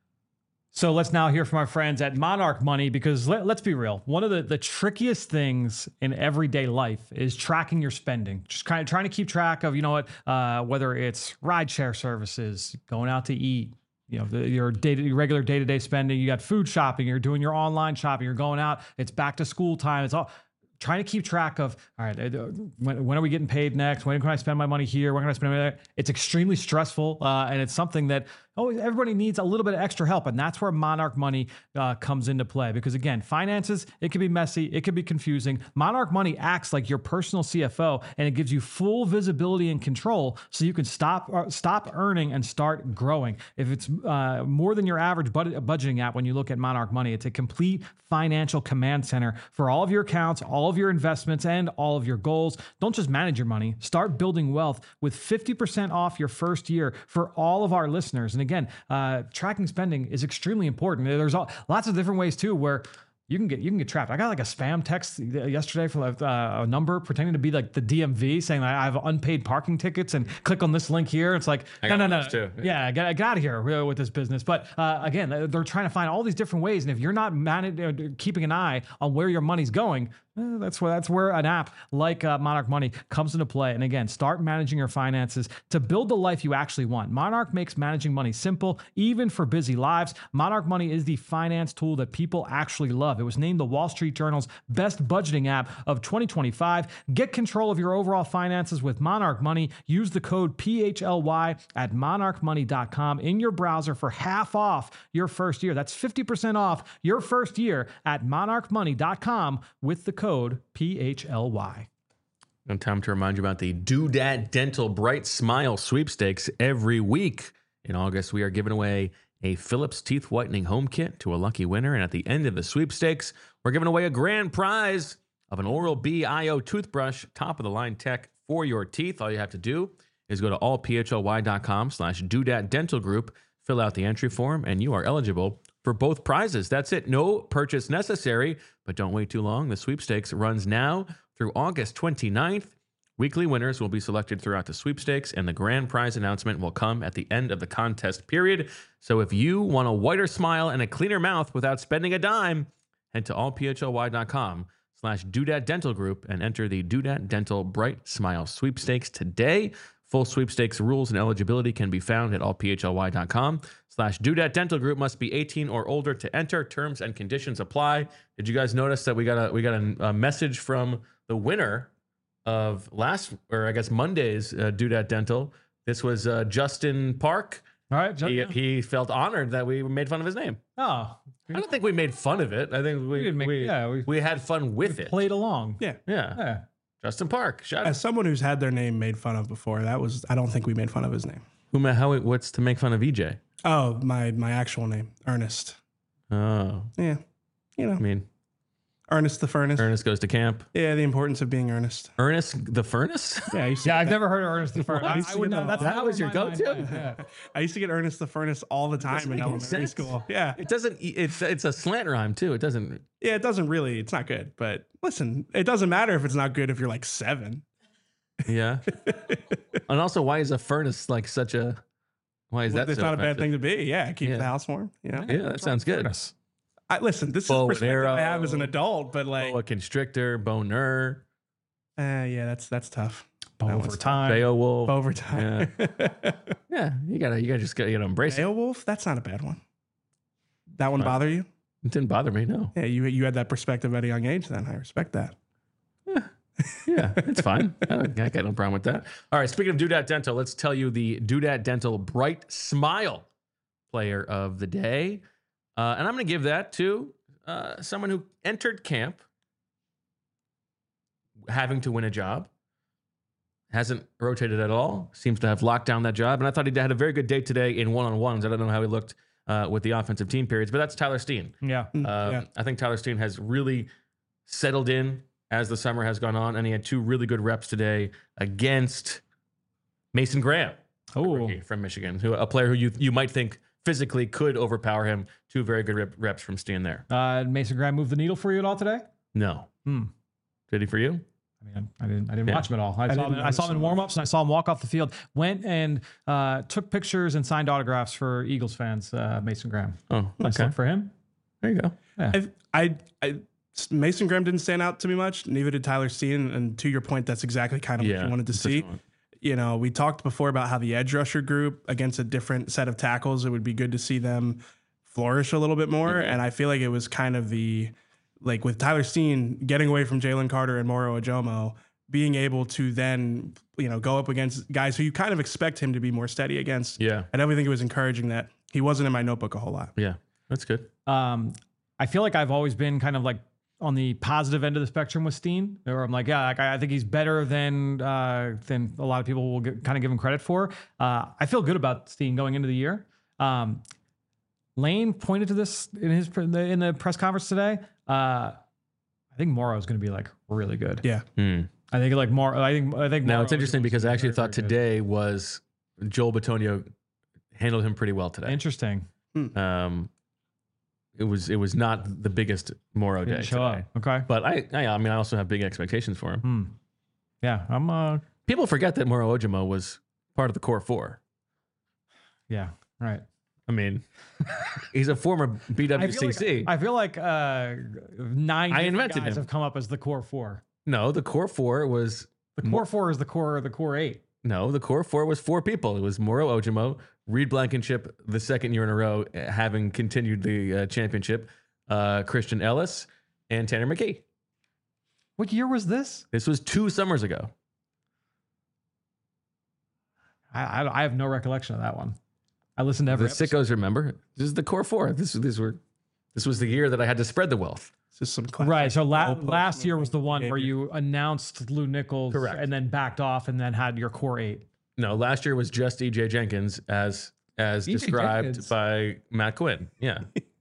So let's now hear from our friends at Monarch Money because let's be real. One of the trickiest things in everyday life is tracking your spending. Just kind of trying to keep track of, whether it's rideshare services, going out to eat, your regular day-to-day spending. You got food shopping, you're doing your online shopping, you're going out, it's back to school time. It's all trying to keep track of, all right, when are we getting paid next? When can I spend my money here? When can I spend my money there? It's extremely stressful. And it's something that everybody needs a little bit of extra help. And that's where Monarch Money comes into play. Because again, finances, it can be messy. It can be confusing. Monarch Money acts like your personal CFO, and it gives you full visibility and control so you can stop earning and start growing. If it's more than your average budgeting app, when you look at Monarch Money, it's a complete financial command center for all of your accounts, all of your investments, and all of your goals. Don't just manage your money. Start building wealth with 50% off your first year for all of our listeners. And again, tracking spending is extremely important. There's lots of different ways too where you can get trapped. I got like a spam text yesterday from a number pretending to be like the DMV saying I have unpaid parking tickets and click on this link here. It's like, no. Too. Yeah, get out of here with this business. But again, they're trying to find all these different ways. And if you're not keeping an eye on where your money's going, that's where an app like Monarch Money comes into play. And again, start managing your finances to build the life you actually want. Monarch makes managing money simple, even for busy lives. Monarch Money is the finance tool that people actually love. It was named the Wall Street Journal's best budgeting app of 2025. Get control of your overall finances with Monarch Money. Use the code PHLY at monarchmoney.com in your browser for half off your first year. That's 50% off your first year at monarchmoney.com with the code PHLY. And time to remind you about the Doodad Dental Bright Smile Sweepstakes. Every week in August, we are giving away a Philips Teeth Whitening Home Kit to a lucky winner. And at the end of the sweepstakes, we're giving away a grand prize of an Oral-B IO toothbrush, top-of-the-line tech for your teeth. All you have to do is go to allphly.com/Doodad Dental Group, fill out the entry form, and you are eligible for both prizes. That's it. No purchase necessary, but don't wait too long. The sweepstakes runs now through August 29th. Weekly winners will be selected throughout the sweepstakes, and the grand prize announcement will come at the end of the contest period. So if you want a whiter smile and a cleaner mouth without spending a dime, head to allphly.com/Doodat Dental Group and enter the Doodat Dental Bright Smile Sweepstakes today. Full sweepstakes rules and eligibility can be found at allphly.com/Doodat Dental Group. Must be 18 or older to enter. Terms and conditions apply. Did you guys notice that we got a message from the winner of Monday's Doodat Dental? This was Justin Park. All right. He felt honored that we made fun of his name. Oh, I don't think we made fun of it. I think we had fun with it. Played along. Yeah. Justin Park. Shout out. As someone who's had their name made fun of before, I don't think we made fun of his name. What's to make fun of EJ? Oh, my actual name, Ernest. Oh. Yeah. I mean, Ernest the Furnace. Ernest goes to camp. Yeah, the importance of being earnest. Ernest the Furnace? Yeah, I've never heard of Ernest the Furnace. I would know. That was your go-to? Yeah. I used to get Ernest the Furnace all the time in elementary school. Yeah. It doesn't. It's a slant rhyme too. It doesn't. Yeah, it doesn't really. It's not good. But listen, it doesn't matter if it's not good if you're like 7. Yeah. And also, why is a furnace like such a? Why is that? It's so not a bad offensive? thing to be. Yeah, keep Yeah. the house warm. You know. Yeah, that sounds good. Listen, this is Bow and perspective arrow. I have as an adult, but like, Boa constrictor, boner, yeah, that's tough. Over time. Beowulf. Overtime. Yeah, you gotta embrace it. Beowulf, that's not a bad one. That one bother you? It didn't bother me. No. Yeah, you had that perspective at a young age. Then I respect that. Yeah, it's fine. I got no problem with that. All right, speaking of Doodat Dental, let's tell you the Doodat Dental Bright Smile Player of the Day. And I'm going to give that to someone who entered camp having to win a job, hasn't rotated at all, seems to have locked down that job. And I thought he had a very good day today in one-on-ones. I don't know how he looked with the offensive team periods, but that's Tyler Steen. Yeah. I think Tyler Steen has really settled in as the summer has gone on, and he had 2 really good reps today against Mason Graham, rookie from Michigan, a player who you might think physically could overpower him. 2 very good reps from Steen there. Mason Graham moved the needle for you at all today? No. Did he for you? I didn't watch him at all. I saw him in warm-ups and I saw him walk off the field. Went and took pictures and signed autographs for Eagles fans. Mason Graham. Oh, Nice okay. look for him. There you go. I Mason Graham didn't stand out to me much. Neither did Tyler Steen. And to your point, that's exactly kind of what you wanted to see. You know, we talked before about how the edge rusher group against a different set of tackles, it would be good to see them flourish a little bit more. And I feel like it was kind of with Tyler Steen getting away from Jalen Carter and Moro Ojomo, being able to then, go up against guys who you kind of expect him to be more steady against. Yeah. I definitely think it was encouraging that he wasn't in my notebook a whole lot. Yeah, that's good. I feel like I've always been kind of like on the positive end of the spectrum with Steen, where I'm like, I think he's better than a lot of people will kind of give him credit for. I feel good about Steen going into the year. Lane pointed to this in the press conference today. I think Moro is going to be like really good. Yeah. I think like more. I think. Now Moro it's interesting is because I actually very, thought very good. today was Joel Bitonio handled him pretty well today. Interesting. It was not the biggest Moro day Didn't show today. up. Okay. But I also have big expectations for him. Yeah. I'm. People forget that Moro Ojomo was part of the core 4. Yeah. Right. I mean, he's a former BWCC. I feel like 9 invented guys him. have come up as the core 4. No, the core 4 was The core 4 is the core 8. No, the core 4 was 4 people. It was Moro Ojomo, Reed Blankenship, the second year in a row, having continued the championship, Christian Ellis, and Tanner McKee. What year was this? This was 2 summers ago. I have no recollection of that one. I listened to every The episode. sickos remember. This is the core 4. This was the year that I had to spread the wealth. It's just some classic Right. So goalpost last year was the one where behavior. you announced Lou Nichols Correct. and then backed off and then had your core 8. No, last year was just EJ Jenkins as described Jenkins. by Matt Quinn. Yeah.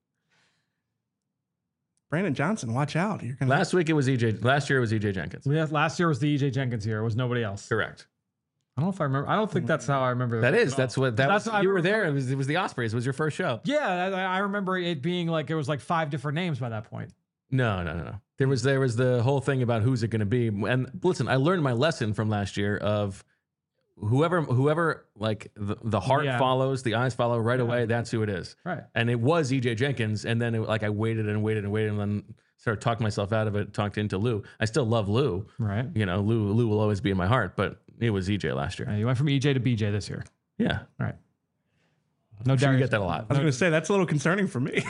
Brandon Johnson, watch out. You're gonna Last year it was EJ Jenkins. Last year was the EJ Jenkins year. It was nobody else. Correct. I don't know if I remember. I don't think that's how I remember. That's what That's- I you were remember- there. It was the Ospreys. It was your first show. Yeah, I remember it being like it was like 5 different names by that point. No. There was the whole thing about who's it going to be. And listen, I learned my lesson from last year of whoever like the heart follows, the eyes follow right away. That's who it is. Right. And it was EJ Jenkins. And then I waited and then started talking myself out of it, talked into Lou. I still love Lou. Right. You know, Lou will always be in my heart, but it was EJ last year. You went from EJ to BJ this year. Yeah. All right. No doubt you get that a lot. I was going to say, that's a little concerning for me.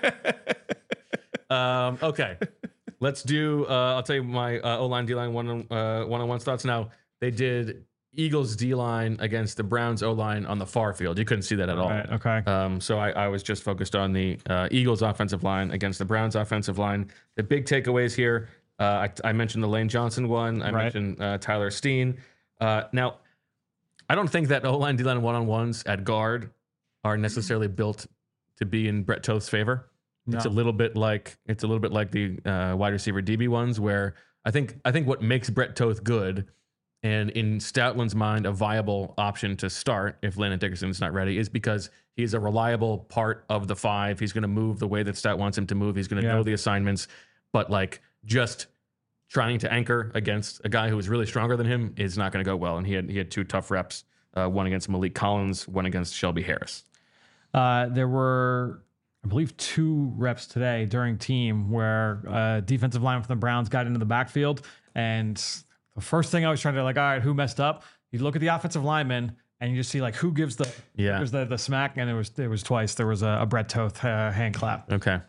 Okay. Let's do, I'll tell you my O-line, D-line one-on-one thoughts. Now, they did Eagles D-line against the Browns O-line on the far field. You couldn't see that at all. Right, okay. So I was just focused on the Eagles offensive line against the Browns offensive line. The big takeaways here, I mentioned the Lane Johnson one. I mentioned Tyler Steen. Now, I don't think that O-line, D-line one-on-ones at guard are necessarily built to be in Brett Toth's favor. No. It's a little bit like the wide receiver DB ones, where I think what makes Brett Toth good, and in Stoutland's mind a viable option to start if Landon Dickerson's not ready, is because he's a reliable part of the five. He's going to move the way that Stout wants him to move. He's going to know the assignments, but like just trying to anchor against a guy who is really stronger than him is not going to go well. And he had 2 tough reps, one against Malik Collins, one against Shelby Harris. There were, I believe, 2 reps today during team where defensive lineman from the Browns got into the backfield. And the first thing I was trying to all right, who messed up? You look at the offensive lineman and you just see who gives the smack. And it was twice. There was a Brett Toth hand clap. Okay.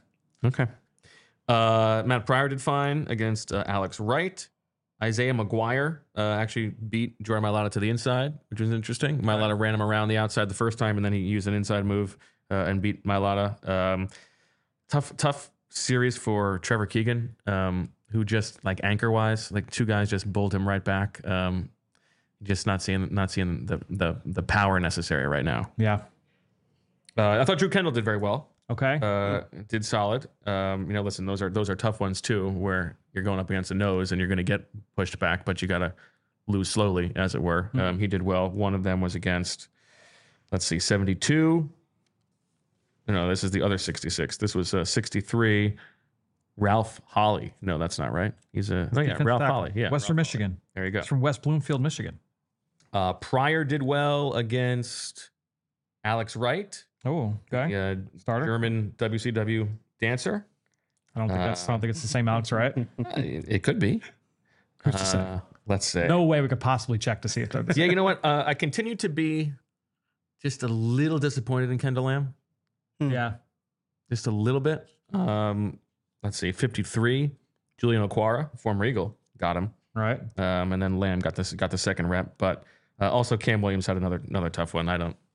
Matt Pryor did fine against Alex Wright. Isaiah McGuire actually beat Jordan Mailata to the inside, which was interesting. Mailata ran him around the outside the first time, and then he used an inside move and beat Mailata. Tough series for Trevor Keegan, who just anchor-wise, 2 guys just bowled him right back. Just not seeing the power necessary right now. Yeah. I thought Drew Kendall did very well. Okay. Did solid. Listen, those are tough ones too, where you're going up against a nose and you're going to get pushed back, but you got to lose slowly, as it were. He did well. One of them was against, 72. No, this is the other 66. This was 63. Ralph Holley. No, that's not right. He's Ralph Holley. Yeah. Western Michigan. There you go. He's from West Bloomfield, Michigan. Pryor did well against Alex Wright. Oh, okay. Starter. German WCW dancer. I don't think it's the same Alex Wright. It could be. Let's say. No way we could possibly check to see if that's. Yeah, you know what? I continue to be just a little disappointed in Kendall Lamb. Yeah. Just a little bit. 53. Julian Okwara, former Eagle, got him. Right. And then Lamb got the second rep, but also Cam Williams had another tough one.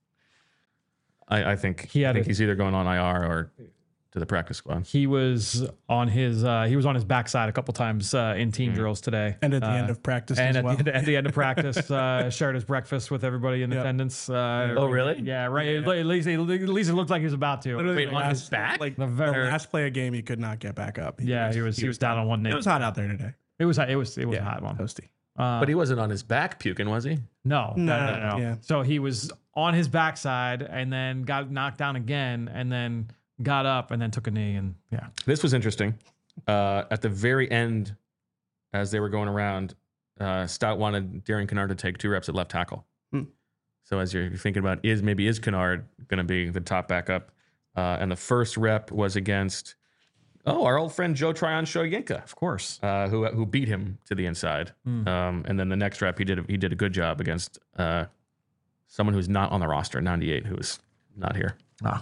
I think he's either going on IR or to the practice squad. He was on his backside a couple times in team drills today, and at the end of practice, and as well. at the end of practice, shared his breakfast with everybody in attendance. Oh, really? Yeah, right. At least it looked like he was about to. Literally Wait, on his back? The last play of game, he could not get back up. He was down on one knee. It was hot out there today. It was a hot one. Toasty. But he wasn't on his back puking, was he? No. Yeah. So he was on his backside and then got knocked down again and then got up and then took a knee and yeah. This was interesting. At the very end, as they were going around, Stout wanted Darian Kennard to take 2 reps at left tackle. So as you're thinking about is Kennard going to be the top backup? And the first rep was against our old friend Joe Tryon-Shoyinka, of course, who beat him to the inside. And then the next rep he did a good job against someone who's not on the roster, 98, who is not here.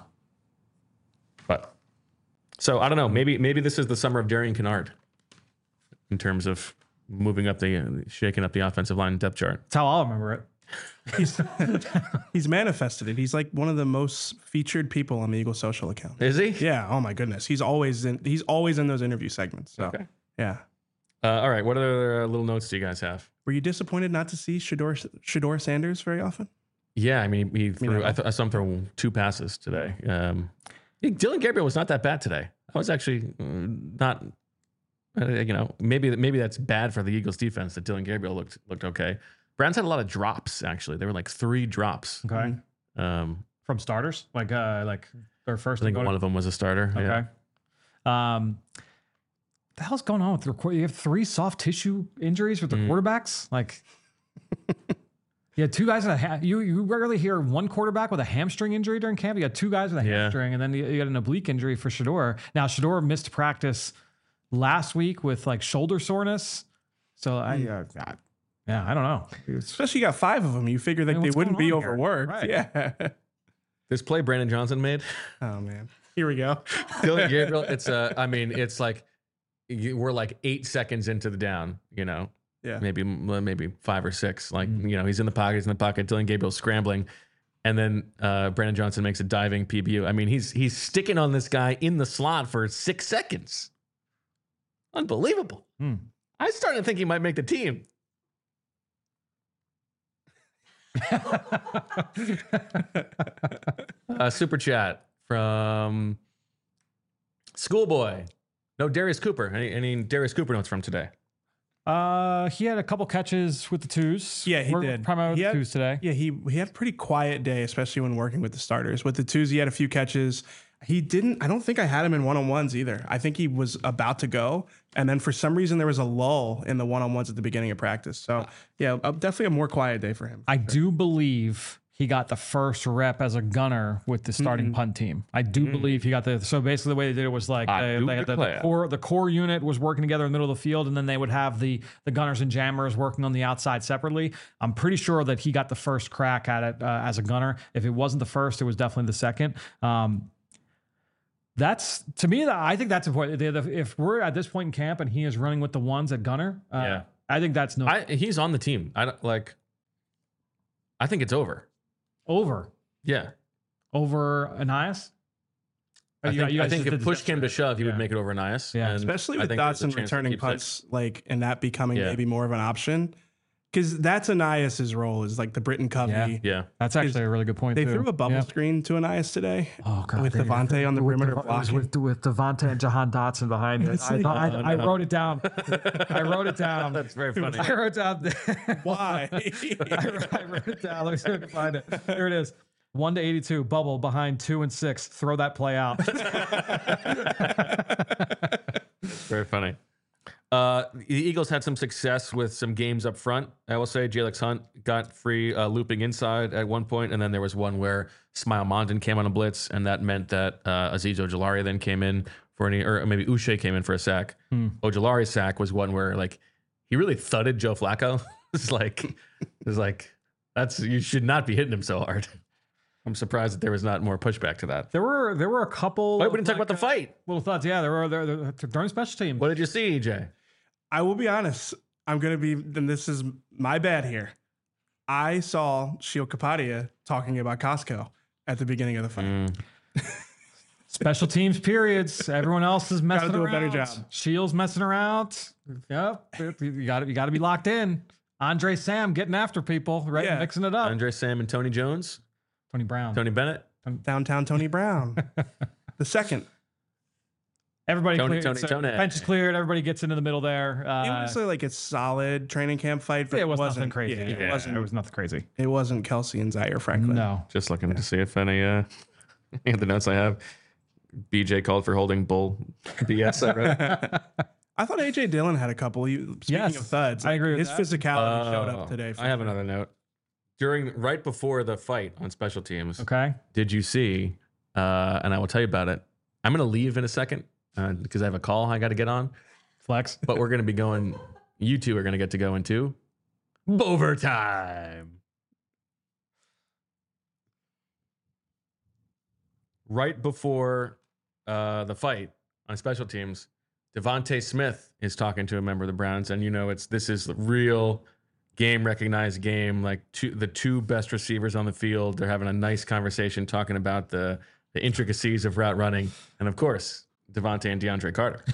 But so I don't know. Maybe this is the summer of Darian Kennard in terms of shaking up the offensive line depth chart. That's how I'll remember it. He's manifested it. He's like one of the most featured people on the Eagle social account. Is he? Yeah. Oh my goodness. He's always in those interview segments. So, okay. Yeah. All right. What other little notes do you guys have? Were you disappointed not to see Shador Sanders very often? Yeah. I mean, I saw him throw 2 passes today. Dylan Gabriel was not that bad today. I was actually not. Maybe that's bad for the Eagles defense that Dylan Gabriel looked okay. Browns had a lot of drops, actually. There were 3 drops. Okay. From starters? Like their first. I think one of them was a starter. Okay. Yeah. the hell's going on with the you have 3 soft tissue injuries with the quarterbacks? Like, you had 2 guys with you rarely hear one quarterback with a hamstring injury during camp. You got 2 guys with a hamstring, and then you got an oblique injury for Shedeur. Now Shedeur missed practice last week with like shoulder soreness. So I don't know. Especially you got 5 of them. You figure that they wouldn't be overworked. Right. Yeah. This play Brandon Johnson made. Oh man. Here we go. Dylan Gabriel. It's it's like we're like 8 seconds into the down, Yeah. Maybe 5 or 6. Like, he's in the pocket. Dylan Gabriel's scrambling. And then Brandon Johnson makes a diving PBU. I mean, he's sticking on this guy in the slot for 6 seconds. Unbelievable. I started to think he might make the team. Super chat from Schoolboy. No Darius Cooper. Any Darius Cooper notes from today? He had a couple catches with the twos. Yeah, he did. Primarily the twos today. Yeah, he had a pretty quiet day, especially when working with the starters. With the twos, he had a few catches. I don't think I had him in one-on-ones either. I think he was about to go. And then for some reason, there was a lull in the one-on-ones at the beginning of practice. So yeah, definitely a more quiet day for him. I do believe he got the first rep as a gunner with the starting punt team. I do believe he got so basically the way they did it was like they had the core unit was working together in the middle of the field, and then they would have the gunners and jammers working on the outside separately. I'm pretty sure that he got the first crack at it as a gunner. If it wasn't the first, it was definitely the second. That's to me. I think that's important. If we're at this point in camp and he is running with the ones at gunner, I think that's he's on the team. I think it's over. Over. Yeah. Over Ainias? I think if push came to shove, he would make it over Ainias. Yeah. Especially with Dotson returning punts, and that becoming maybe more of an option. Because that's Ainias' role, is like the Britton Covey. Yeah. That's actually a really good point. They threw a bubble screen to Ainias today. Oh, God. With Devontae on the perimeter blocking. With Devontae and Jahan Dotson behind it. I wrote it down. That's very funny. I wrote down. Why? I wrote it down. Let me see if I can find it. Here it is. 1-82, bubble behind 2 and 6. Throw that play out. Very funny. The Eagles had some success with some games up front. I will say Jalex Hunt got free looping inside at one point, and then there was one where Smile Mondon came on a blitz, and that meant that Azeez Ojulari then came in or maybe Uche came in for a sack. Ojulari's sack was one where he really thudded Joe Flacco. It's like you should not be hitting him so hard. I'm surprised that there was not more pushback to that. There were a couple. Wait, we didn't talk about the fight. Little thoughts. Yeah, there were during special teams. What did you see, EJ? I will be honest. Then this is my bad here. I saw Sheil Kapadia talking about Costco at the beginning of the fight. Special teams periods. Everyone else is messing around. Gotta do a better job. Shields messing around. Yep. You got to be locked in. Andre Sam getting after people, right? Yeah. Mixing it up. Andre Sam and Tony Jones. Tony Brown. Tony Bennett. Downtown Tony Brown. The second. Everybody Tony bench is cleared. Everybody gets into the middle there. It was like a solid training camp fight, but it wasn't nothing crazy. Yeah, it was nothing crazy. It wasn't Kelsey and Zaire Franklin. No. Just looking to see if any of the notes I have. BJ called for holding bull BS. I thought AJ Dillon had a couple. Speaking of thuds, I agree with his physicality showed up today. I have another note. Right before the fight on special teams, okay, did you see? And I will tell you about it. I'm going to leave in a second because I have a call I got to get on. Flex. But we're going to be going. You two are going to get to go into overtime. Right before the fight on special teams, Devontae Smith is talking to a member of the Browns, and this is real game recognized game. Like the two best receivers on the field, they're having a nice conversation talking about the intricacies of route running, and of course, Devontae and DeAndre Carter.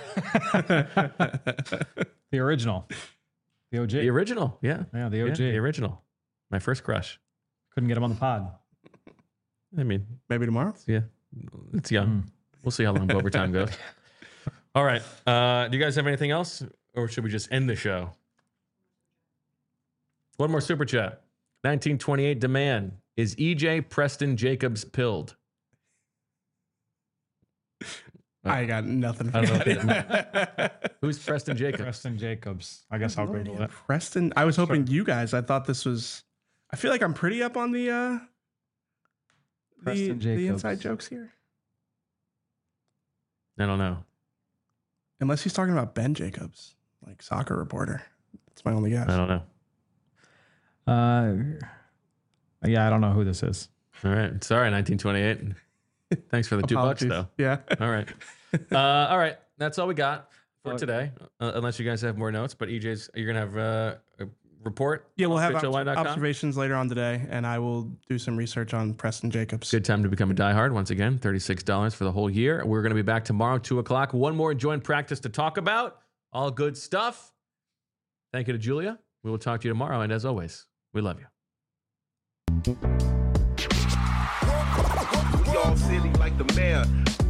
The original, the OG, the original, yeah, the OG, the original. My first crush. Couldn't get him on the pod. I mean, maybe tomorrow. Yeah, it's young. We'll see how long overtime goes. All right. Do you guys have anything else, or should we just end the show? One more super chat. 1928 demand. Is EJ Preston Jacobs pilled? I got nothing for I don't know that. Who's Preston Jacobs? Preston Jacobs. I guess I'll Google it. Preston. I was hoping you guys. I thought this was. I feel like I'm pretty up on the Preston Jacobs. inside jokes here. I don't know. Unless he's talking about Ben Jacobs, like soccer reporter. That's my only guess. I don't know. Yeah, I don't know who this is. All right. Sorry, 1928. Thanks for the $2, though. Yeah. All right. All right. That's all we got for today. Unless you guys have more notes, but EJ's, you're going to have a report? Yeah, we'll have FitchLY.com? observations later on today, and I will do some research on Preston Jacobs. Good time to become a diehard. Once again, $36 for the whole year. We're going to be back tomorrow, 2 o'clock. One more joint practice to talk about. All good stuff. Thank you to Julia. We will talk to you tomorrow. And as always, we love you. We all silly like the mayor.